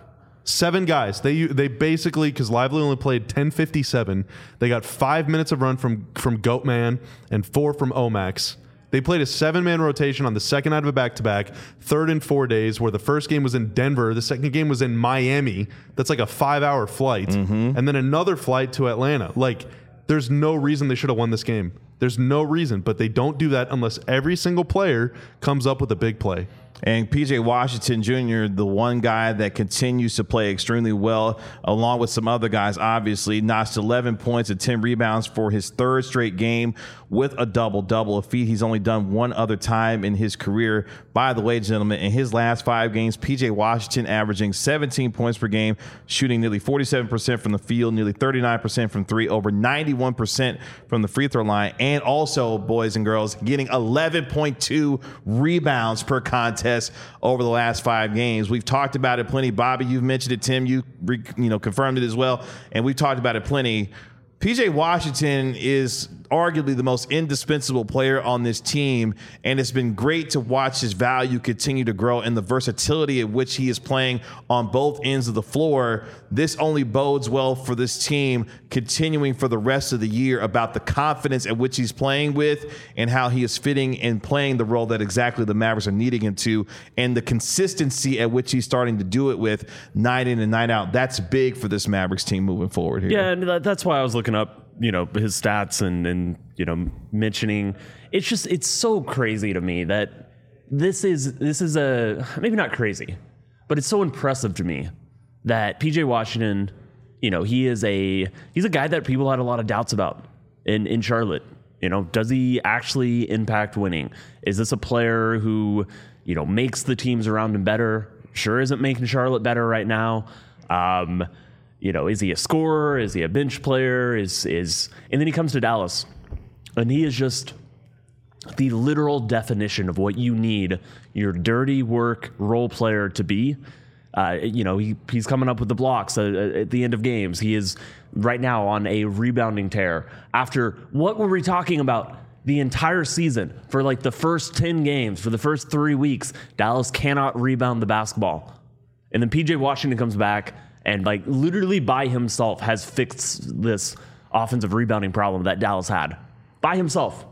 Seven guys. They they basically, because Lively only played ten fifty-seven, they got five minutes of run from from Goatman and four from Omax. They played a seven-man rotation on the second night of a back-to-back, third in four days, where the first game was in Denver, the second game was in Miami. That's like a five-hour flight, Mm-hmm. and then another flight to Atlanta. Like, there's no reason they should have won this game. There's no reason, but they don't do that unless every single player comes up with a big play. And P J Washington Junior, the one guy that continues to play extremely well, along with some other guys, obviously, notched eleven points and ten rebounds for his third straight game with a double-double, a feat he's only done one other time in his career. By the way, gentlemen, in his last five games, P J Washington averaging seventeen points per game, shooting nearly forty-seven percent from the field, nearly thirty-nine percent from three, over ninety-one percent from the free throw line, and also, boys and girls, getting eleven point two rebounds per contest over the last five games. We've talked about it plenty. Bobby, you've mentioned it. Tim, you re, you know confirmed it as well, and we've talked about it plenty. P J Washington is arguably the most indispensable player on this team, and it's been great to watch his value continue to grow and the versatility at which he is playing on both ends of the floor. This only bodes well for this team continuing for the rest of the year about the confidence at which he's playing with and how he is fitting and playing the role that exactly the Mavericks are needing him to, and the consistency at which he's starting to do it with night in and night out. That's big for this Mavericks team moving forward here. Yeah, and that- that's why I was looking up, you know, his stats and, and, you know, mentioning, it's just, it's so crazy to me that this is, this is a, maybe not crazy, but it's so impressive to me that P J Washington, you know, he is a, he's a guy that people had a lot of doubts about in, in Charlotte. You know, does he actually impact winning? Is this a player who, you know, makes the teams around him better? Sure isn't making Charlotte better right now. Um, You know, is he a scorer? Is he a bench player? Is is and then he comes to Dallas, and he is just the literal definition of what you need your dirty work role player to be. Uh, you know, he he's coming up with the blocks uh, at the end of games. He is right now on a rebounding tear. After what were we talking about the entire season for like the first ten games, for the first three weeks? Dallas cannot rebound the basketball, and then P J Washington comes back and like literally by himself has fixed this offensive rebounding problem that Dallas had by himself.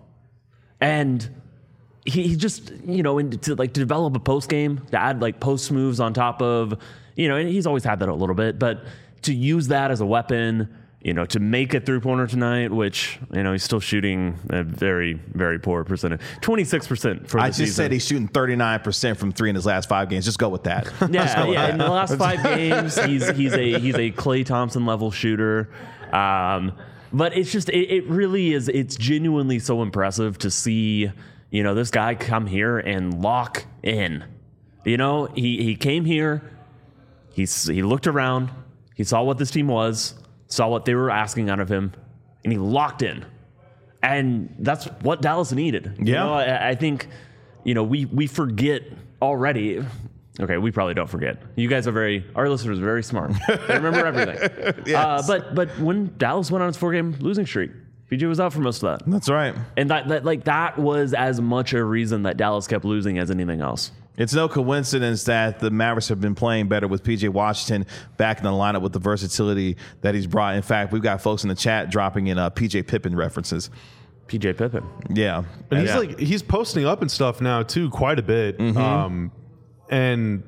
And he, he just, you know, and to like to develop a post game, to add like post moves on top of, you know, and he's always had that a little bit, but to use that as a weapon, you know, to make a three pointer tonight, which, you know, he's still shooting a very, very poor percentage, twenty-six percent for the I just season. said he's shooting thirty-nine percent from three in his last five games. Just go with that. Yeah, yeah. In the last five games, he's he's a he's a Klay Thompson level shooter. Um, but it's just it, it really is. It's genuinely so impressive to see, you know, this guy come here and lock in. You know, he he came here. He's he looked around. He saw what this team was. Saw what they were asking out of him, and he locked in. And that's what Dallas needed. You Yeah. know, I, I think, you know, we we forget already. Okay, we probably don't forget. You guys are very, our listeners are very smart. They remember everything. Yes. Uh, but but when Dallas went on its four-game losing streak, P J was out for most of that. That's right. And that, that like that was as much a reason that Dallas kept losing as anything else. It's no coincidence that the Mavericks have been playing better with P J Washington back in the lineup with the versatility that he's brought. In fact, we've got folks in the chat dropping in uh, P J Pippen references. P J Pippen. Yeah. And he's Yeah. like he's posting up and stuff now too, quite a bit. Mm-hmm. Um, and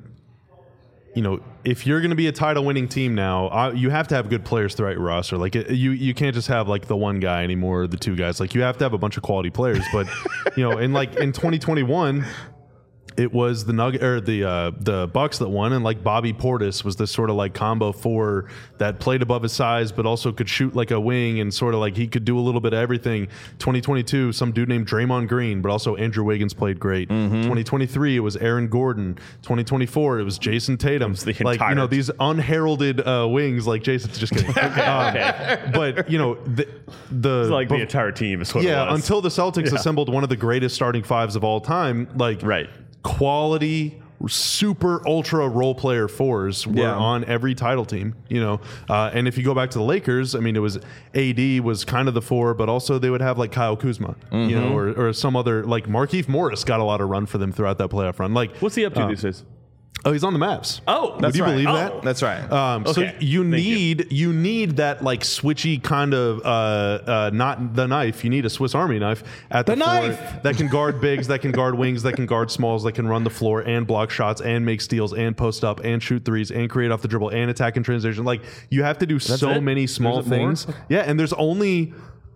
you know, if you're going to be a title-winning team now, uh, you have to have good players throughout your roster. Like it, you, you can't just have like the one guy anymore, or the two guys. Like you have to have a bunch of quality players. But you know, in like in twenty twenty-one, it was the Nugget or the uh, the Bucks that won, and like Bobby Portis was this sort of like combo four that played above his size, but also could shoot like a wing and sort of like he could do a little bit of everything. twenty twenty-two, some dude named Draymond Green, but also Andrew Wiggins played great. Mm-hmm. twenty twenty-three, it was Aaron Gordon. twenty twenty-four, it was Jason Tatum. The like you know these unheralded uh, wings, like Jason's just kidding. okay, um, okay. But you know the the It's like but, the entire team is what yeah it was. until the Celtics Yeah. assembled one of the greatest starting fives of all time, like Right. quality, super ultra role player fours were Yeah. on every title team, you know. Uh, and if you go back to the Lakers, I mean, it was A D was kind of the four, but also they would have like Kyle Kuzma, Mm-hmm. you know, or, or some other like Markieff Morris got a lot of run for them throughout that playoff run. Like, What's he up to these days? oh, he's on the Mavs. Oh, Would you right. believe Oh, that? That's right. Um, So Okay. you Thank you. need you. need that like switchy kind of uh, uh, not the knife. You need a Swiss Army knife at the, The floor knife! that can guard bigs, that can guard wings, that can guard smalls, that can run the floor and block shots and make steals and post up and shoot threes and create off the dribble and attack in transition. Like you have to do so it? many small There's more? things. Yeah, and there's only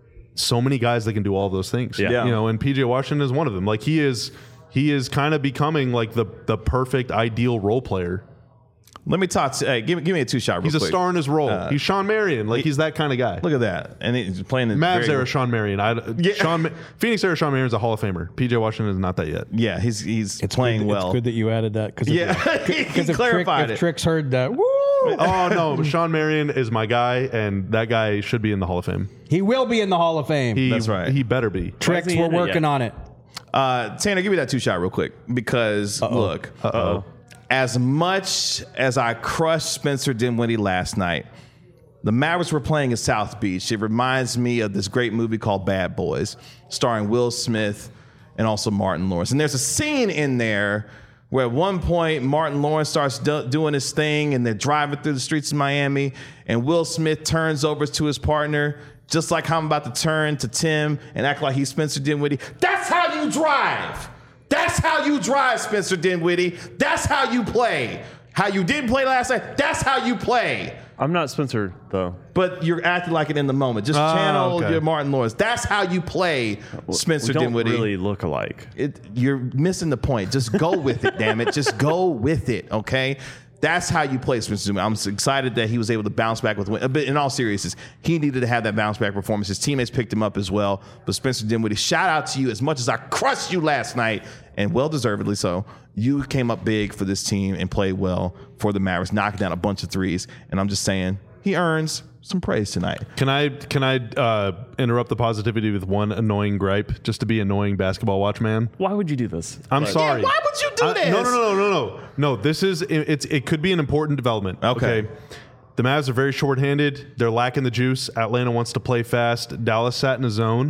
so many guys that can do all those things. Yeah. You know, and P J Washington is one of them. Like he is he is kind of becoming like the the perfect ideal role player. Let me talk to. Hey, give, me- give me a two shot. Real He's a quick. star in his role. he's Sean Marion. Like he's that kind of guy. Look at that, and he's playing the Mavs very- era Sean Marion. I, Sean Phoenix era Sean Marion is a Hall of Famer. P J Washington is not that yet. Yeah, he's he's It's playing good, well. It's good that you added that because Yeah, he if Trick, clarified if it. Tricks heard that, woo, Oh no, Sean Marion is my guy, and that guy should be in the Hall of Fame. he will be in the Hall of Fame. He, That's right. He better be. Tricks, he we're in it working yet? on it. Uh, Tanner, give me that two shot real quick because look, Uh-oh. as much as I crushed Spencer Dinwiddie last night, the Mavericks were playing in South Beach. It reminds me of this great movie called Bad Boys, starring Will Smith and also Martin Lawrence. And there's a scene in there where at one point Martin Lawrence starts do- doing his thing and they're driving through the streets of Miami and Will Smith turns over to his partner just like how I'm about to turn to Tim and act like he's Spencer Dinwiddie. That's how you drive. That's how you drive, Spencer Dinwiddie. That's how you play. How you didn't play last night, that's how you play. I'm not Spencer, though. But you're acting like it in the moment. Just Ah, channel okay. your Martin Lawrence. That's how you play, Spencer we don't Dinwiddie. really look alike. It, you're missing the point. Just go with it, damn it. Just go with it, okay? That's how you play Spencer Dinwiddie. I'm excited that he was able to bounce back with win. But in all seriousness, he needed to have that bounce back performance. His teammates picked him up as well. But Spencer Dinwiddie, shout out to you. As much as I crushed you last night, and well deservedly so, you came up big for this team and played well for the Mavericks, knocking down a bunch of threes. And I'm just saying, he earns some praise tonight. Can I can I uh, interrupt the positivity with one annoying gripe, just to be annoying basketball watch man? Why would you do this? I'm Like, sorry. why would you do I- this? No, no, no, no, no, no. This is it, it's it could be an important development. Okay. The Mavs are very shorthanded. They're lacking the juice. Atlanta wants to play fast. Dallas sat in a zone,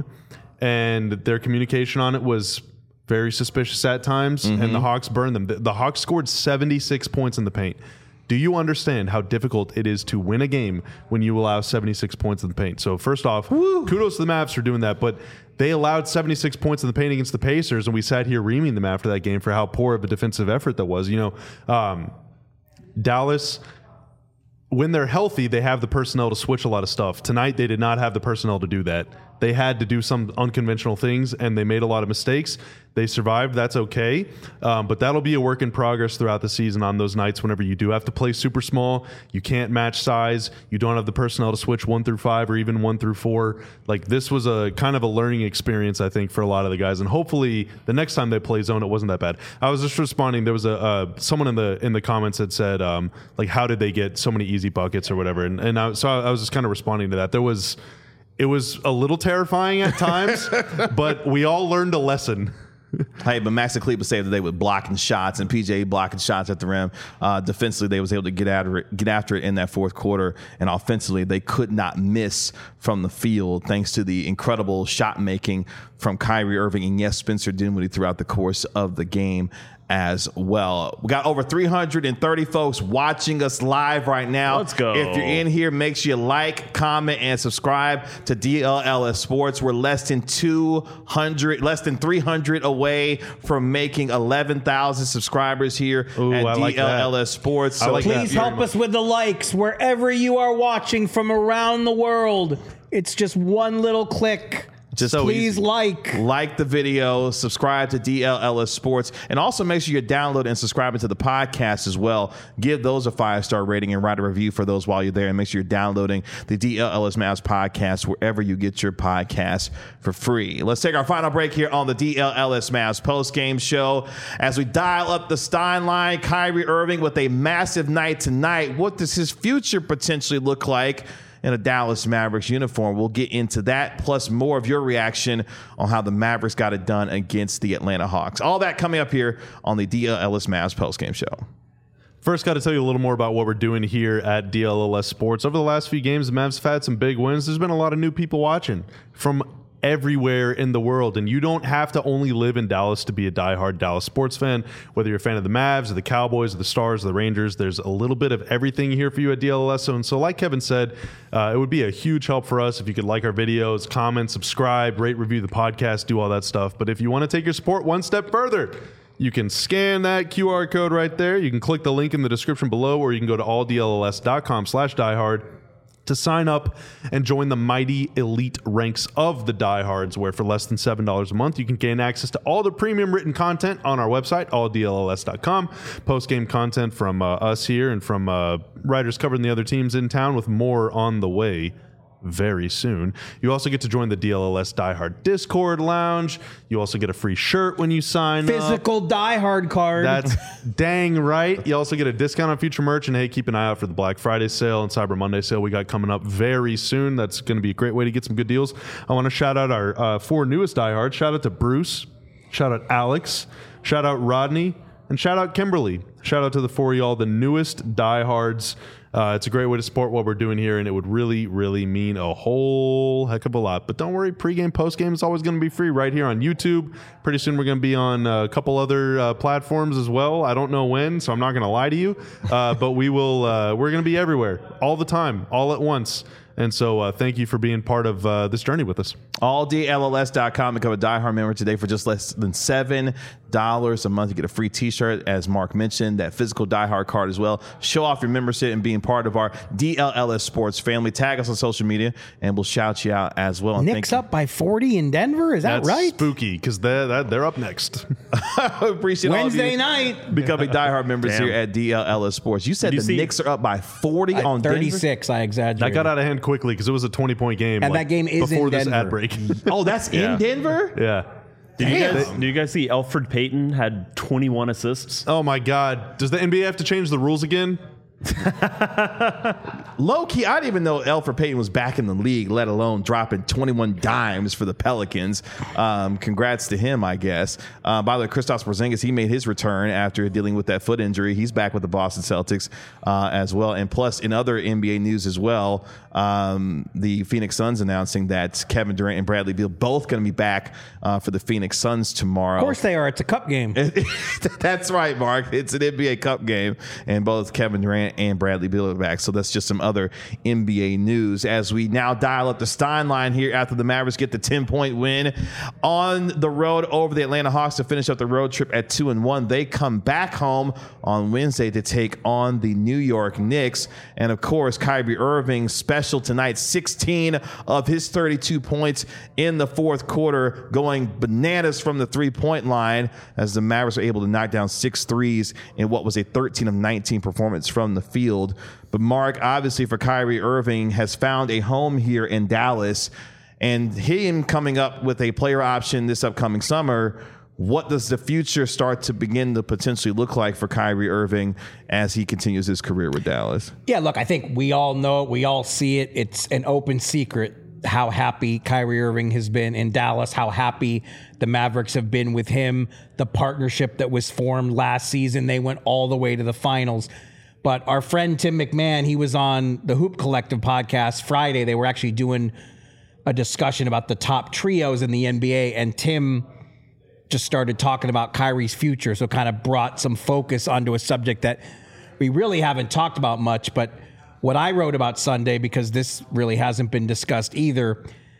and their communication on it was very suspicious at times. Mm-hmm. And the Hawks burned them. The, the Hawks scored seventy-six points in the paint. Do you understand how difficult it is to win a game when you allow seventy-six points in the paint? So first off, kudos to the Mavs for doing that, but they allowed seventy-six points in the paint against the Pacers, and we sat here reaming them after that game for how poor of a defensive effort that was. You know, um, Dallas, when they're healthy, they have the personnel to switch a lot of stuff. Tonight, they did not have the personnel to do that. They had to do some unconventional things, and they made a lot of mistakes. They survived. That's okay. Um, but that'll be a work in progress throughout the season on those nights whenever you do have to play super small. You can't match size. You don't have the personnel to switch one through five or even one through four. Like, this was a kind of a learning experience, I think, for a lot of the guys. And hopefully the next time they play zone, it wasn't that bad. I was just responding. There was a uh, someone in the in the comments that said, um, like, how did they get so many easy buckets or whatever? And, and I, so I was just kind of responding to that. There was... It was a little terrifying at times, but we all learned a lesson. Hey, but Max Kleber saved the day with blocking shots and P J blocking shots at the rim. Uh, defensively, they was able to get after it, get after it in that fourth quarter, and offensively, they could not miss from the field thanks to the incredible shot making from Kyrie Irving and yes, Spencer Dinwiddie throughout the course of the game as well. We got over three hundred thirty folks watching us live right now. Let's go. If you're in here, make sure you like, comment, and subscribe to D L L S Sports. We're less than two hundred, less than three hundred away from making eleven thousand subscribers here Ooh, at I like D L L S that. Sports. I like that. Please help us with the likes wherever you are watching from around the world. It's just one little click. Just So Please easy. like. Like the video, subscribe to D L L S Sports, and also make sure you're downloading and subscribing to the podcast as well. Give those a five-star rating and write a review for those while you're there, and make sure you're downloading the D L L S Mavs podcast wherever you get your podcasts for free. Let's take our final break here on the D L L S Mavs post-game show as we dial up the Stein line. Kyrie Irving with a massive night tonight. What does his future potentially look like in a Dallas Mavericks uniform? We'll get into that, plus more of your reaction on how the Mavericks got it done against the Atlanta Hawks. All that coming up here on the D L L S Mavs postgame show. First, got to tell you a little more about what we're doing here at D L L S Sports. Over the last few games, the Mavs have had some big wins. There's been a lot of new people watching from everywhere in the world, and you don't have to only live in Dallas to be a diehard Dallas sports fan. Whether you're a fan of the Mavs or the Cowboys or the Stars or the Rangers, there's a little bit of everything here for you at D L L S. And so like Kevin said, uh, it would be a huge help for us if you could like our videos, comment, subscribe, rate, review the podcast, do all that stuff. But if you want to take your support one step further, you can scan that Q R code right there. You can click the link in the description below, or you can go to all D L L S dot com slash diehard to sign up and join the mighty elite ranks of the diehards, where for less than seven dollars a month, you can gain access to all the premium written content on our website, all D L L S dot com, post-game content from uh, us here and from uh, writers covering the other teams in town, with more on the way very soon. You also get to join the D L L S Diehard Discord Lounge. You also get a free shirt when you sign Physical up. diehard card. That's dang right. You also get a discount on future merch. And hey, keep an eye out for the Black Friday sale and Cyber Monday sale we got coming up very soon. That's going to be a great way to get some good deals. I want to shout out our uh, four newest diehards. Shout out to Bruce. Shout out Alex. Shout out Rodney. And shout out Kimberly. Shout out to the four of y'all, the newest diehards. Uh, it's a great way to support what we're doing here, and it would really, really mean a whole heck of a lot. But don't worry, pregame, postgame is always going to be free right here on YouTube. Pretty soon we're going to be on a couple other uh, platforms as well. I don't know when, so I'm not going to lie to you. Uh, but we will. Uh, we're going to be everywhere, all the time, all at once. And so uh, thank you for being part of uh, this journey with us. all D L L S dot com. Become a diehard member today for just less than seven dollars a month. You get a free t-shirt, as Mark mentioned, that physical diehard card as well. Show off your membership and being part of our D L L S Sports family. Tag us on social media, and we'll shout you out as well. And Knicks up by forty in Denver. Is that That's right? spooky, because they're, they're, they're up next. appreciate Wednesday all of you night. becoming diehard members Damn. here at D L L S Sports. You said you the see- Knicks are up by forty on Denver? thirty-six. I That exaggerated. got out of hand quickly because it was a twenty-point game. And like, that game is before in this Denver. ad break. Oh, that's Yeah. in Denver? Yeah. Did you, Damn. guys, did you guys see Elfrid Payton had twenty-one assists? Oh my God. Does the N B A have to change the rules again? Low key, I didn't even know Elfrid Payton was back in the league, let alone dropping twenty-one dimes for the Pelicans. Um, congrats to him, I guess. Uh, by the way, Kristaps Porzingis, he made his return after dealing with that foot injury. He's back with the Boston Celtics uh, as well. And plus, in other N B A news as well, um, the Phoenix Suns announcing that Kevin Durant and Bradley Beal both going to be back uh, for the Phoenix Suns tomorrow. Of course they are. It's a cup game. That's right, Mark. It's an N B A Cup game, and both Kevin Durant and Bradley Beal are back. So that's just some other N B A news as we now dial up the Stein line here after the Mavericks get the ten-point win on the road over the Atlanta Hawks to finish up the road trip at two and one. They come back home on Wednesday to take on the New York Knicks, and of course, Kyrie Irving special tonight. sixteen of his thirty-two points in the fourth quarter, going bananas from the three-point line as the Mavericks are able to knock down six threes in what was a thirteen of nineteen performance from the field. But Mark, obviously for Kyrie Irving, has found a home here in Dallas, and him coming up with a player option this upcoming summer. What does the future start to begin to potentially look like for Kyrie Irving as he continues his career with Dallas? Yeah, look, I think we all know it. We all see it. It's an open secret how happy Kyrie Irving has been in Dallas, how happy the Mavericks have been with him, the partnership that was formed last season. They went all the way to the finals. But our friend Tim McMahon, he was on the Hoop Collective podcast Friday. They were actually doing a discussion about the top trios in the N B A, and Tim just started talking about Kyrie's future, so kind of brought some focus onto a subject that we really haven't talked about much. But what I wrote about Sunday, because this really hasn't been discussed either,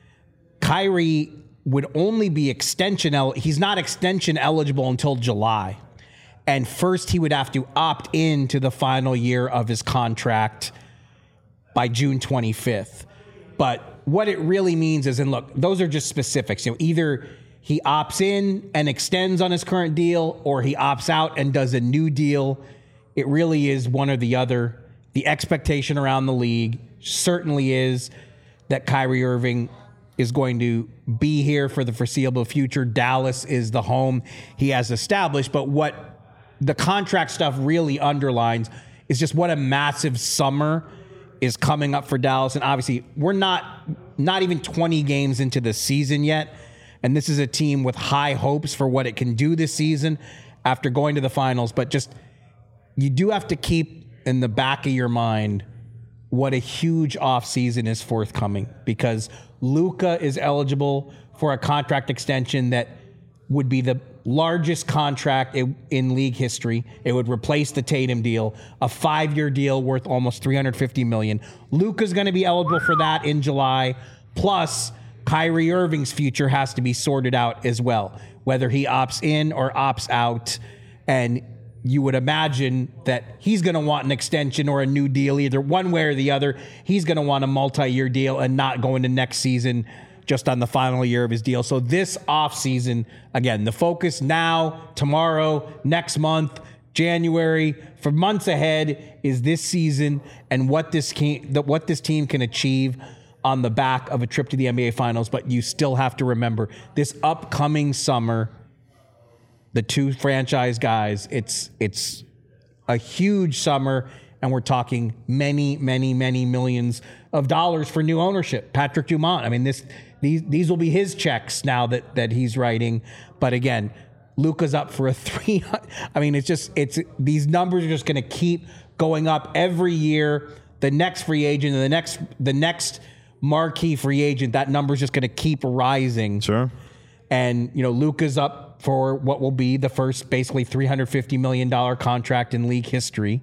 Kyrie would only be extension el- he's not extension eligible until July. And first he would have to opt in to the final year of his contract by June twenty-fifth. But what it really means is, and look, those are just specifics. You know, either he opts in and extends on his current deal, or he opts out and does a new deal. It really is one or the other. The expectation around the league certainly is that Kyrie Irving is going to be here for the foreseeable future. Dallas is the home he has established. But what the contract stuff really underlines is just what a massive summer is coming up for Dallas. And obviously, we're not not even twenty games into the season yet. And this is a team with high hopes for what it can do this season after going to the finals. But just, you do have to keep in the back of your mind what a huge offseason is forthcoming, because Luka is eligible for a contract extension that would be the largest contract in league history. It would replace the Tatum deal, a five-year deal worth almost three hundred fifty million dollars. Luka's going to be eligible for that in July. Plus, Kyrie Irving's future has to be sorted out as well, whether he opts in or opts out. And you would imagine that he's going to want an extension or a new deal, either one way or the other. He's going to want a multi-year deal and not go into next season just on the final year of his deal. So this offseason, again, the focus now, tomorrow, next month, January, for months ahead, is this season and what this can, what this team can achieve on the back of a trip to the N B A Finals. But you still have to remember, this upcoming summer, the two franchise guys, it's it's a huge summer, and we're talking many, many, many millions of dollars for new ownership. Patrick Dumont, I mean, this these these will be his checks now that that he's writing. But again, Luka's up for a three. I mean, it's just it's these numbers are just going to keep going up every year. The next free agent, and the next the next marquee free agent, that number is just going to keep rising. Sure. And you know, Luka's up for what will be the first basically three hundred fifty million dollars contract in league history.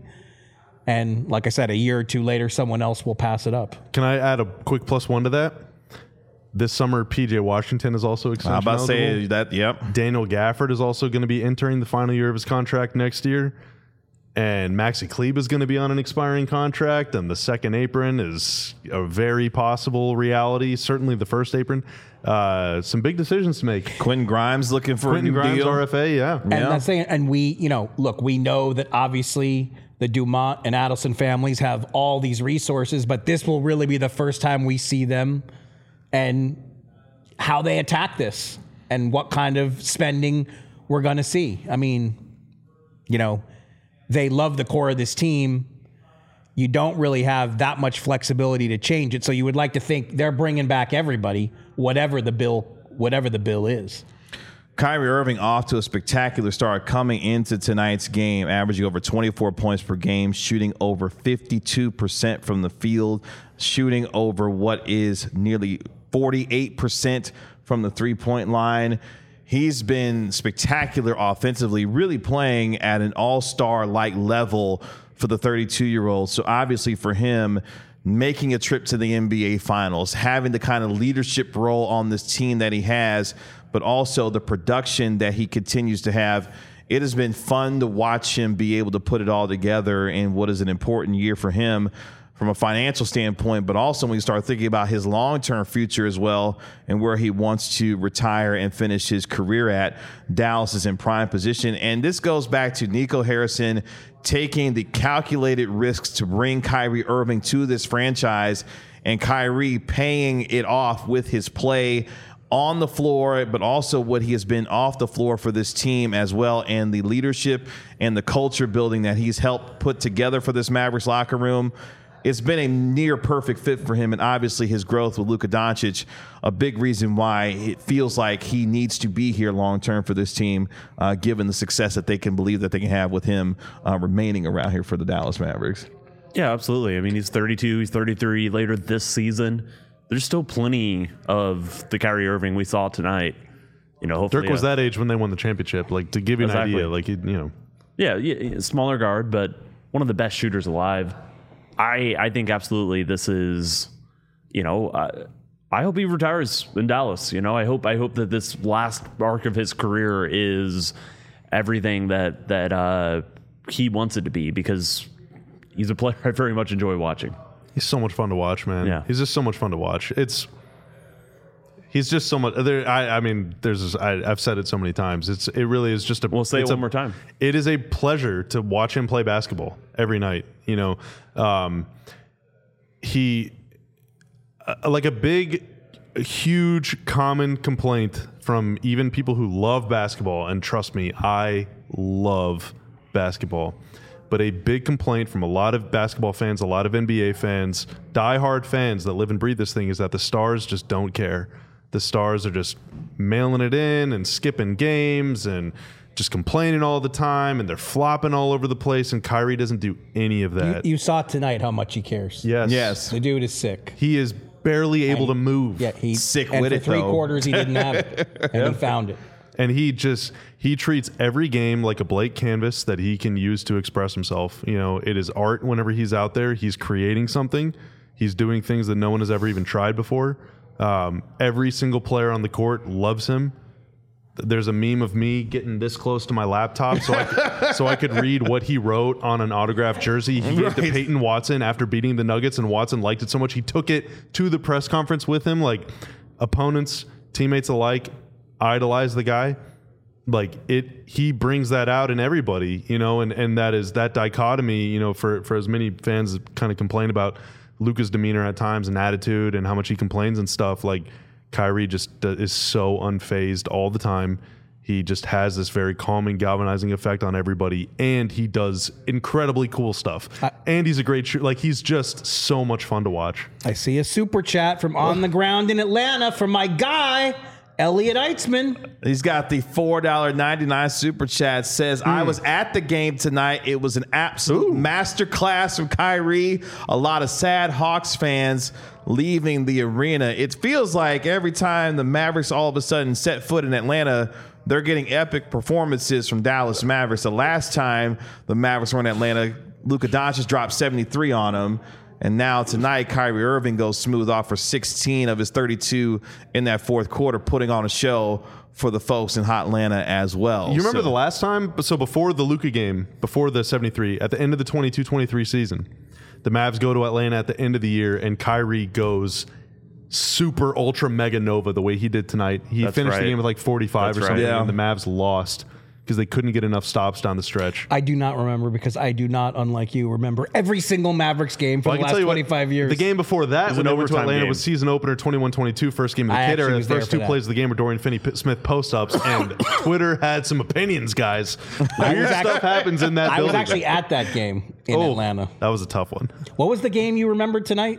And like I said, a year or two later, someone else will pass it up. Can I add a quick plus one to that? This summer, P J Washington is also extension I'm about to say eligible. that, yep. Daniel Gafford is also going to be entering the final year of his contract next year. And Maxi Kleber is going to be on an expiring contract. And the second apron is a very possible reality. Certainly the first apron. Uh, some big decisions to make. Quentin Grimes looking for Quentin a new Grimes, deal. R F A, yeah. And Yeah. that's saying, and we, you know, look, we know that obviously the Dumont and Adelson families have all these resources, but this will really be the first time we see them and how they attack this and what kind of spending we're going to see. I mean, you know, they love the core of this team. You don't really have that much flexibility to change it. So you would like to think they're bringing back everybody, whatever the bill, whatever the bill is. Kyrie Irving off to a spectacular start coming into tonight's game, averaging over twenty-four points per game, shooting over fifty-two percent from the field, shooting over what is nearly forty-eight percent from the three-point line. He's been spectacular offensively, really playing at an all-star-like level for the thirty-two-year-old. So obviously for him, making a trip to the N B A Finals, having the kind of leadership role on this team that he has, but also the production that he continues to have, it has been fun to watch him be able to put it all together in what is an important year for him from a financial standpoint, but also when you start thinking about his long-term future as well and where he wants to retire and finish his career at. Dallas is in prime position. And this goes back to Nico Harrison taking the calculated risks to bring Kyrie Irving to this franchise, and Kyrie paying it off with his play on the floor, but also what he has been off the floor for this team as well, and the leadership and the culture building that he's helped put together for this Mavericks locker room. It's been a near perfect fit for him, and obviously his growth with Luka Doncic, a big reason why it feels like he needs to be here long-term for this team, uh, given the success that they can believe that they can have with him uh, remaining around here for the Dallas Mavericks. Yeah, absolutely. I mean, he's thirty-two, he's thirty-three later this season. There's still plenty of the Kyrie Irving we saw tonight. You know, hopefully, Dirk was uh, that age when they won the championship. Like, to give you an Exactly. idea, like, you know. Yeah, yeah, smaller guard, but one of the best shooters alive. I I think absolutely this is, you know, uh, I hope he retires in Dallas. You know, I hope I hope that this last arc of his career is everything that that uh, he wants it to be, because he's a player I very much enjoy watching. He's so much fun to watch, man. Yeah. He's just so much fun to watch. It's he's just so much. There, I, I mean, there's. I, I've said it so many times. It's. It really is just a. We'll say it it's one a, more time. It is a pleasure to watch him play basketball every night. You know, um, he uh, like a big, huge common complaint from even people who love basketball. And trust me, I love basketball. But a big complaint from a lot of basketball fans, a lot of N B A fans, diehard fans that live and breathe this thing is that the stars just don't care. The stars are just mailing it in and skipping games and just complaining all the time, and they're flopping all over the place, and Kyrie doesn't do any of You, that. you saw tonight how much he cares. yes. Yes. The dude is sick. He is barely able to move. Yeah, he's Sick and with for it, three though. quarters he didn't have it, and he found it. And he just he treats every game like a blank canvas that he can use to express himself. You know, it is art whenever he's out there. He's creating something. He's doing things that no one has ever even tried before. Um, every single player on the court loves him. There's a meme of me getting this close to my laptop so I could, so I could read what he wrote on an autographed jersey he gave to Right. Peyton Watson after beating the Nuggets, and Watson liked it so much he took it to the press conference with him. Like, opponents, teammates alike idolize the guy. Like, it, he brings that out in everybody, you know, and, and that is that dichotomy, you know, for, for as many fans that kind of complain about Luka's demeanor at times and attitude and how much he complains and stuff. Like, Kyrie just d- is so unfazed all the time. He just has this very calming, galvanizing effect on everybody, and he does incredibly cool stuff. I- and he's a great shooter. Like, he's just so much fun to watch. I see a super chat from On the Ground in Atlanta from my guy, Elliot Eitzman. He's got the four dollars and ninety-nine cent super chat. Says, I was at the game tonight. It was an absolute masterclass from Kyrie. A lot of sad Hawks fans leaving the arena. It feels like every time the Mavericks all of a sudden set foot in Atlanta, they're getting epic performances from Dallas Mavericks. The last time the Mavericks were in Atlanta, Luka Doncic dropped seventy-three on them. And now tonight, Kyrie Irving goes smooth off for sixteen of his thirty-two in that fourth quarter, putting on a show for the folks in Hot Atlanta as well. You remember So- the last time? So before the Luka game, before the seventy-three, at the end of the twenty-two twenty-three season, the Mavs go to Atlanta at the end of the year, and Kyrie goes super ultra mega nova the way he did tonight. He That's finished right. the game with like forty-five That's or something, right. Yeah. and the Mavs lost because they couldn't get enough stops down the stretch. I do not remember because I do not, unlike you, remember every single Mavericks game for Well, I the can last tell you what, twenty-five years. The game before that, was when an they went to overtime Atlanta, game. was season opener twenty-one twenty-two, first game of the I kid actually era. The was there first for two that. plays of the game were Dorian Finney-Smith post-ups, and Twitter had some opinions, guys. Weird act- stuff happens in that I was building. actually at that game in Oh, Atlanta. That was a tough one. What was the game you remembered tonight?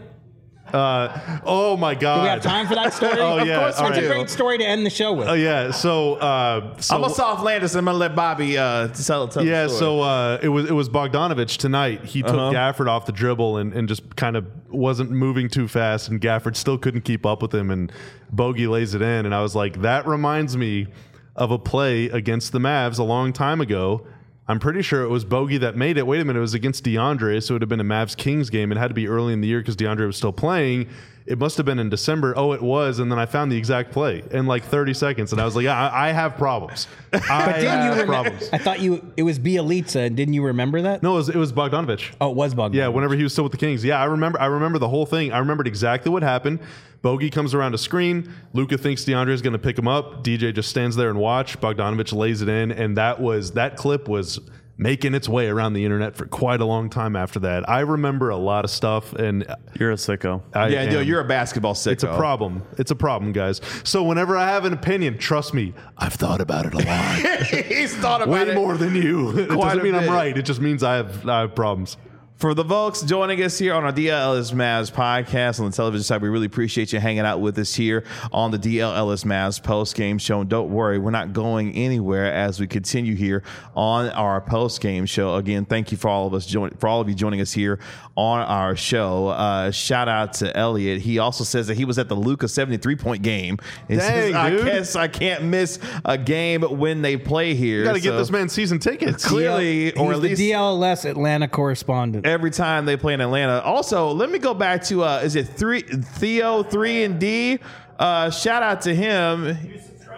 Uh, oh my God! Do we have time for that story? Oh, Of yeah, course, all it's a right. great story to end the show with. Oh yeah. So, uh, so I'm going to soft Landis, and I'm going to let Bobby uh, tell, tell yeah. the story. So uh, it was it was Bogdanovich tonight. He took Uh-huh. Gafford off the dribble and, and just kind of wasn't moving too fast, and Gafford still couldn't keep up with him, and Bogey lays it in, and I was like, that reminds me of a play against the Mavs a long time ago. I'm pretty sure it was Bogey that made it. Wait a minute, it was against DeAndre, so it would have been a Mavs Kings game. It had to be early in the year because DeAndre was still playing. It must have been in December. Oh, it was, and then I found the exact play in like thirty seconds, and I was like, yeah, I, I have problems. I But didn't you have remember? problems. I thought you it was Bielitsa, and didn't you remember that? No, it was, it was Bogdanovich. Oh, it was Bogdan. Yeah, whenever he was still with the Kings. Yeah, I remember I remember the whole thing. I remembered exactly what happened. Bogey comes around a screen. Luka thinks DeAndre is going to pick him up. D J just stands there and watch. Bogdanovich lays it in, and that was that clip was making its way around the internet for quite a long time after that. I remember a lot of stuff, and You're a sicko. I yeah, no, am- you're a basketball sicko. It's a problem. It's a problem, guys. So whenever I have an opinion, trust me, I've thought about it a lot. He's thought about Way it. more than you. It Quite doesn't a mean I'm bit. right. It just means I have I have problems. For the folks joining us here on our D L L S Mavs podcast on the television side, we really appreciate you hanging out with us here on the D L L S Mavs post-game show. And don't worry, we're not going anywhere as we continue here on our post-game show. Again, thank you for all of us join, for all of you joining us here on our show. Uh, shout out to Elliot. He also says that he was at the Luka seventy-three point game. He Dang, says, I dude. guess I can't miss a game when they play here. You got to get So this man season tickets. clearly, or He's at the least D L L S Atlanta correspondent. every time they play in Atlanta. Also, let me go back to uh is it three Theo three and D? Uh shout out to him.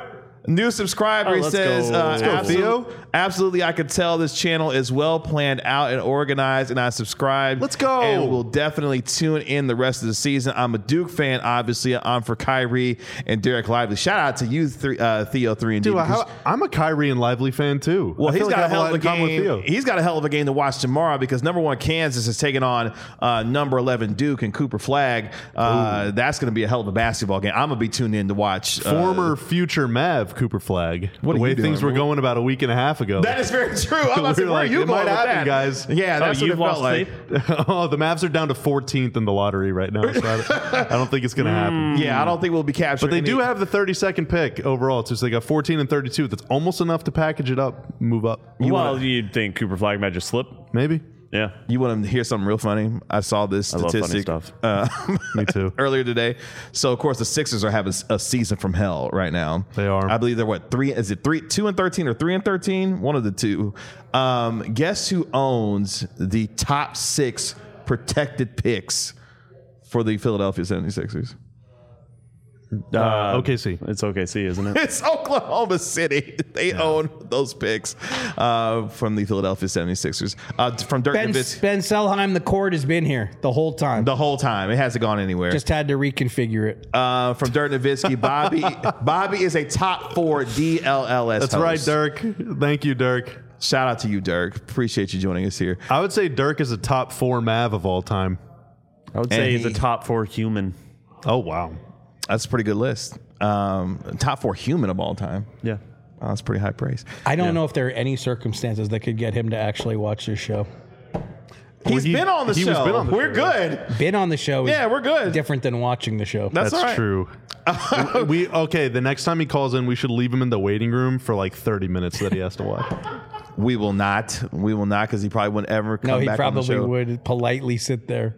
New subscriber Oh, he let's says, go. uh, Let's go, absolute- absolutely, I could tell this channel is well planned out and organized, and I subscribe. Let's go. And we'll definitely tune in the rest of the season. I'm a Duke fan, obviously. I'm for Kyrie and Derek Lively. Shout out to you, three, uh, Theo three and D. Dude, how, I'm a Kyrie and Lively fan too. Well, I he's feel like I got a have hell lot of a in common with game. Theo. He's got a hell of a game to watch tomorrow because number one Kansas is taking on uh, number eleven Duke and Cooper Flag. Uh, that's going to be a hell of a basketball game. I'm gonna be tuned in to watch. Uh, Former future Mav Cooper Flag. What the are way you doing, things were bro? going about a week and a half ago. that is very true. I'm about to say, We were where like, are you it going might with happen, that? guys. Yeah, that's Oh, what it you've felt lost like. faith? Oh, the Mavs are down to fourteenth in the lottery right now. So I, don't, I don't think it's going to happen. Yeah, I don't think we'll be captured. But they do have the thirty-second pick overall, too. So they got fourteen and thirty-two. That's almost enough to package it up, move up. well, wanna, you'd think Cooper Flag might just slip. Maybe. Yeah. You want to hear something real funny? I saw this I love funny statistic stuff. uh, Me too. earlier today. So of course the Sixers are having a season from hell right now. They are. I believe they're what three? Is it three, two and thirteen, or three and thirteen? One of the two. Um, guess who owns the top six protected picks for the Philadelphia seventy-sixers? Uh, O K C. It's O K C, isn't it? It's Oklahoma City. They own those picks uh, from the Philadelphia seventy-sixers. Uh, from Dirk Ben, Nowitzki. Ben Selheim, the cord has been here the whole time. The whole time. It hasn't gone anywhere. Just had to reconfigure it. Uh, from Dirk Nowitzki, Bobby Bobby is a top four D L L S That's host. right, Dirk. Thank you, Dirk. Shout out to you, Dirk. Appreciate you joining us here. I would say Dirk is a top four Mav of all time. I would And say he's he- a top four human. Oh, wow. That's a pretty good list. Um, top four human of all time. Yeah. Oh, that's pretty high praise. I don't Yeah. know if there are any circumstances that could get him to actually watch this show. He's he- been on the he show. was been on the we're show, good. Been on the show is Yeah, we're good. different than watching the show. That's, That's all right. true. we okay. The next time he calls in, we should leave him in the waiting room for like thirty minutes that he has to watch. We will not. We will not because he probably wouldn't ever come no, he back on the probably show. would politely sit there.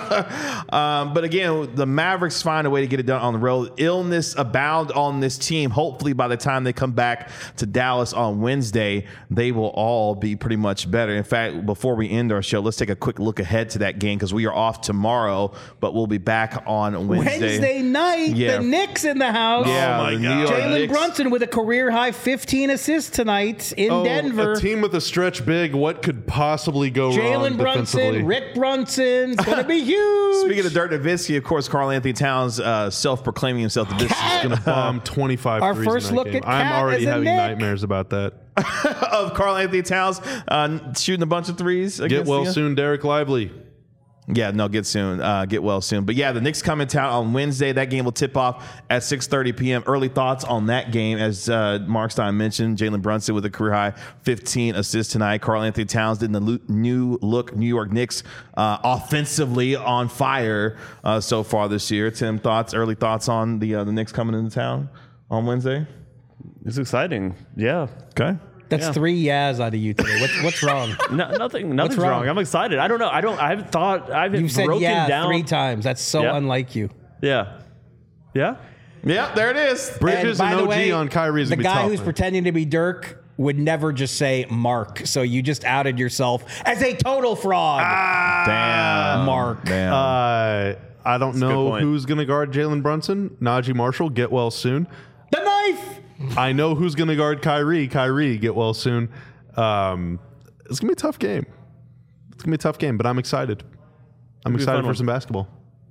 Um, but again, the Mavericks find a way to get it done on the road. Illness abound on this team. Hopefully, by the time they come back to Dallas on Wednesday, they will all be pretty much better. In fact, before we end our show, let's take a quick look ahead to that game because we are off tomorrow, but we'll be back on Wednesday. Wednesday night, Yeah. the Knicks in the house. Yeah, Oh my the God. New York Jalen Knicks. Brunson with a career high fifteen assists tonight in Oh, Denver. a team with a stretch big. What could possibly go wrong Jalen defensively? Brunson, Rick Brunson's gonna be huge. Speaking of Dirk Nowitzki, of course, Carl Anthony Towns uh, self-proclaiming himself that this is Cat. going to Bomb twenty-five Our threes in first that look game. at I'm Cat already as a having Knick. nightmares about that. of Carl Anthony Towns uh, shooting a bunch of threes. Get against well the- soon, Derek Lively. Yeah, no, get soon. Uh, get well soon. But yeah, the Knicks come in town on Wednesday. That game will tip off at six thirty p.m. Early thoughts on that game, as uh, Mark Stein mentioned, Jalen Brunson with a career high fifteen assists tonight. Carl Anthony Towns in the lo- new look New York Knicks uh, offensively on fire uh, so far this year. Tim, thoughts, early thoughts on the uh, the Knicks coming into town on Wednesday? It's exciting. Yeah. Okay. That's Yeah. three yas out of you today. What's what's wrong? No, nothing. Nothing's wrong? wrong? I'm excited. I don't know. I don't. I haven't thought. I haven't You said broken yeah down. three times. That's so Yeah. unlike you. Yeah. Yeah. Yep, there it is. Bridges by and the O G way, on Kyrie is the gonna be guy tough, who's man. pretending to be Dirk would never just say Mark. So you just outed yourself as a total fraud. Damn. Mark. Damn. Uh, I don't a good know point. who's going to guard Jalen Brunson. Najee Marshall, get well soon. The knife. I know who's going to guard Kyrie. Kyrie, get well soon. Um, it's going to be a tough game. It's going to be a tough game, but I'm excited. I'm be a excited fun for one. some basketball.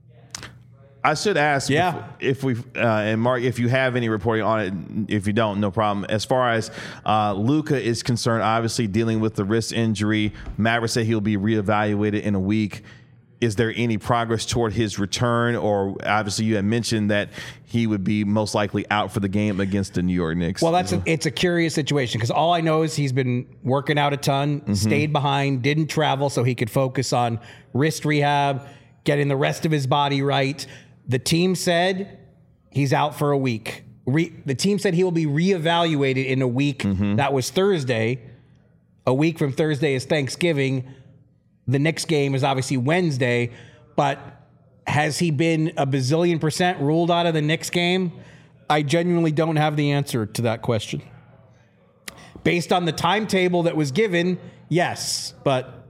I should ask Yeah. if, if we uh, and Mark, if you have any reporting on it. If you don't, no problem. As far as uh, Luka is concerned, obviously dealing with the wrist injury, Maverick said he'll be reevaluated in a week. Is there any progress toward his return? Or obviously you had mentioned that he would be most likely out for the game against the New York Knicks. Well, that's a, it's a curious situation because all I know is he's been working out a ton, Mm-hmm. stayed behind, didn't travel so he could focus on wrist rehab, getting the rest of his body right. The team said he's out for a week. Re, the team said he will be reevaluated in a week. Mm-hmm. That was Thursday. A week from Thursday is Thanksgiving. The next game is obviously Wednesday, but has he been a bazillion percent ruled out of the Knicks game? I genuinely don't have the answer to that question. Based on the timetable that was given, yes, but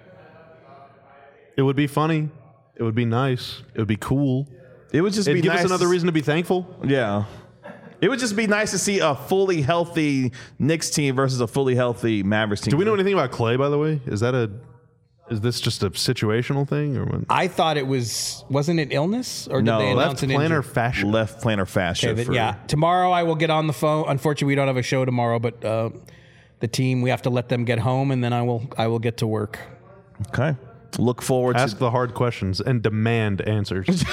It would be funny. It would be nice. It would be cool. it would just It'd be give nice. us another reason to be thankful. Yeah. It would just be nice to see a fully healthy Knicks team versus a fully healthy Mavericks team. Do we know anything about Clay, by the way? Is that a is this just a situational thing or what? I thought it was wasn't it illness or did No, they Left announce an plantar injury? fascia. Left plantar fascia. Okay, then, for, yeah, tomorrow I will get on the phone. Unfortunately, we don't have a show tomorrow, but uh, the team we have to let them get home, and then I will I will get to work. Okay. Look forward Ask to the hard questions and demand answers.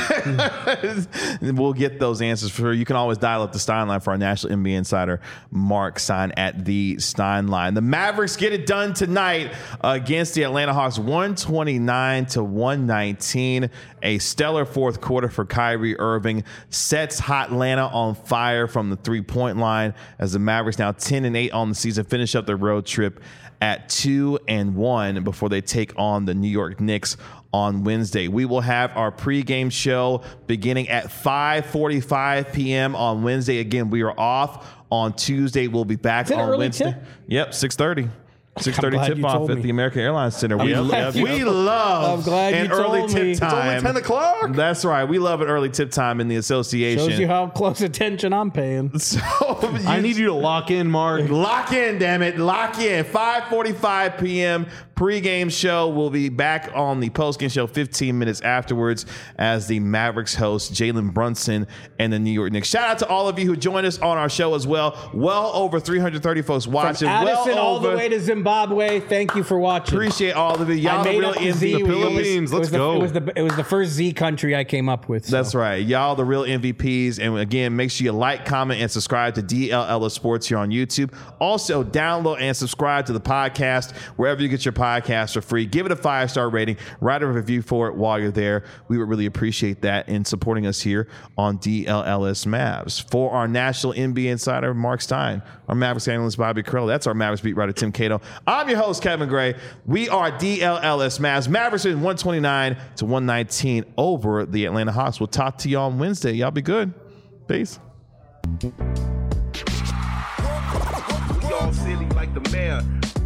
We'll get those answers for you. You can always dial up the Stein line for our national N B A insider, Mark Stein at the Stein line. The Mavericks get it done tonight against the Atlanta Hawks, one twenty-nine to one nineteen. A stellar fourth quarter for Kyrie Irving sets Hot Atlanta on fire from the three-point line as the Mavericks now ten and eight on the season finish up their road trip at two and one before they take on the New York Knicks on Wednesday. We will have our pregame show beginning at five forty-five p.m. on Wednesday. Again, we are off on Tuesday. We'll be back Is it on early Wednesday. tip? Yep, six thirty. six thirty glad tip you off told at me. the American Airlines Center. We, I'm glad love, you- we love I'm glad you an early told tip me. It's time. only Only ten o'clock. That's right. We love an early tip time in the association. Shows you how close attention I'm paying. So I need you to lock in, Mark. Lock in, damn it. Lock in. five forty-five p.m. pregame show. We'll be back on the postgame show fifteen minutes afterwards as the Mavericks host Jalen Brunson and the New York Knicks. Shout out to all of you who joined us on our show as well. Well over three hundred thirty folks watching. From Addison well all over. the way to Zimbabwe. Thank you for watching. Appreciate all of you. Y'all I the made real up the M V Ps. Z. The Philippines. It was Let's the- go. It was the it was the first Z country I came up with. so. That's right. Y'all the real M V Ps. And again, make sure you like, comment, and subscribe to D L L S Sports here on YouTube. Also, download and subscribe to the podcast wherever you get your podcasts for free. Give it a five-star rating. Write a review for it while you're there. We would really appreciate that in supporting us here on D L L S Mavs. For our national N B A insider, Mark Stein, our Mavericks analyst, Bobby Carell. That's our Mavericks beat writer, Tim Cato. I'm your host, Kevin Gray. We are D L L S Mavs. Mavericks in one twenty-nine to one nineteen over the Atlanta Hawks. We'll talk to you on Wednesday. Y'all be good. Peace. We all silly like the mayor.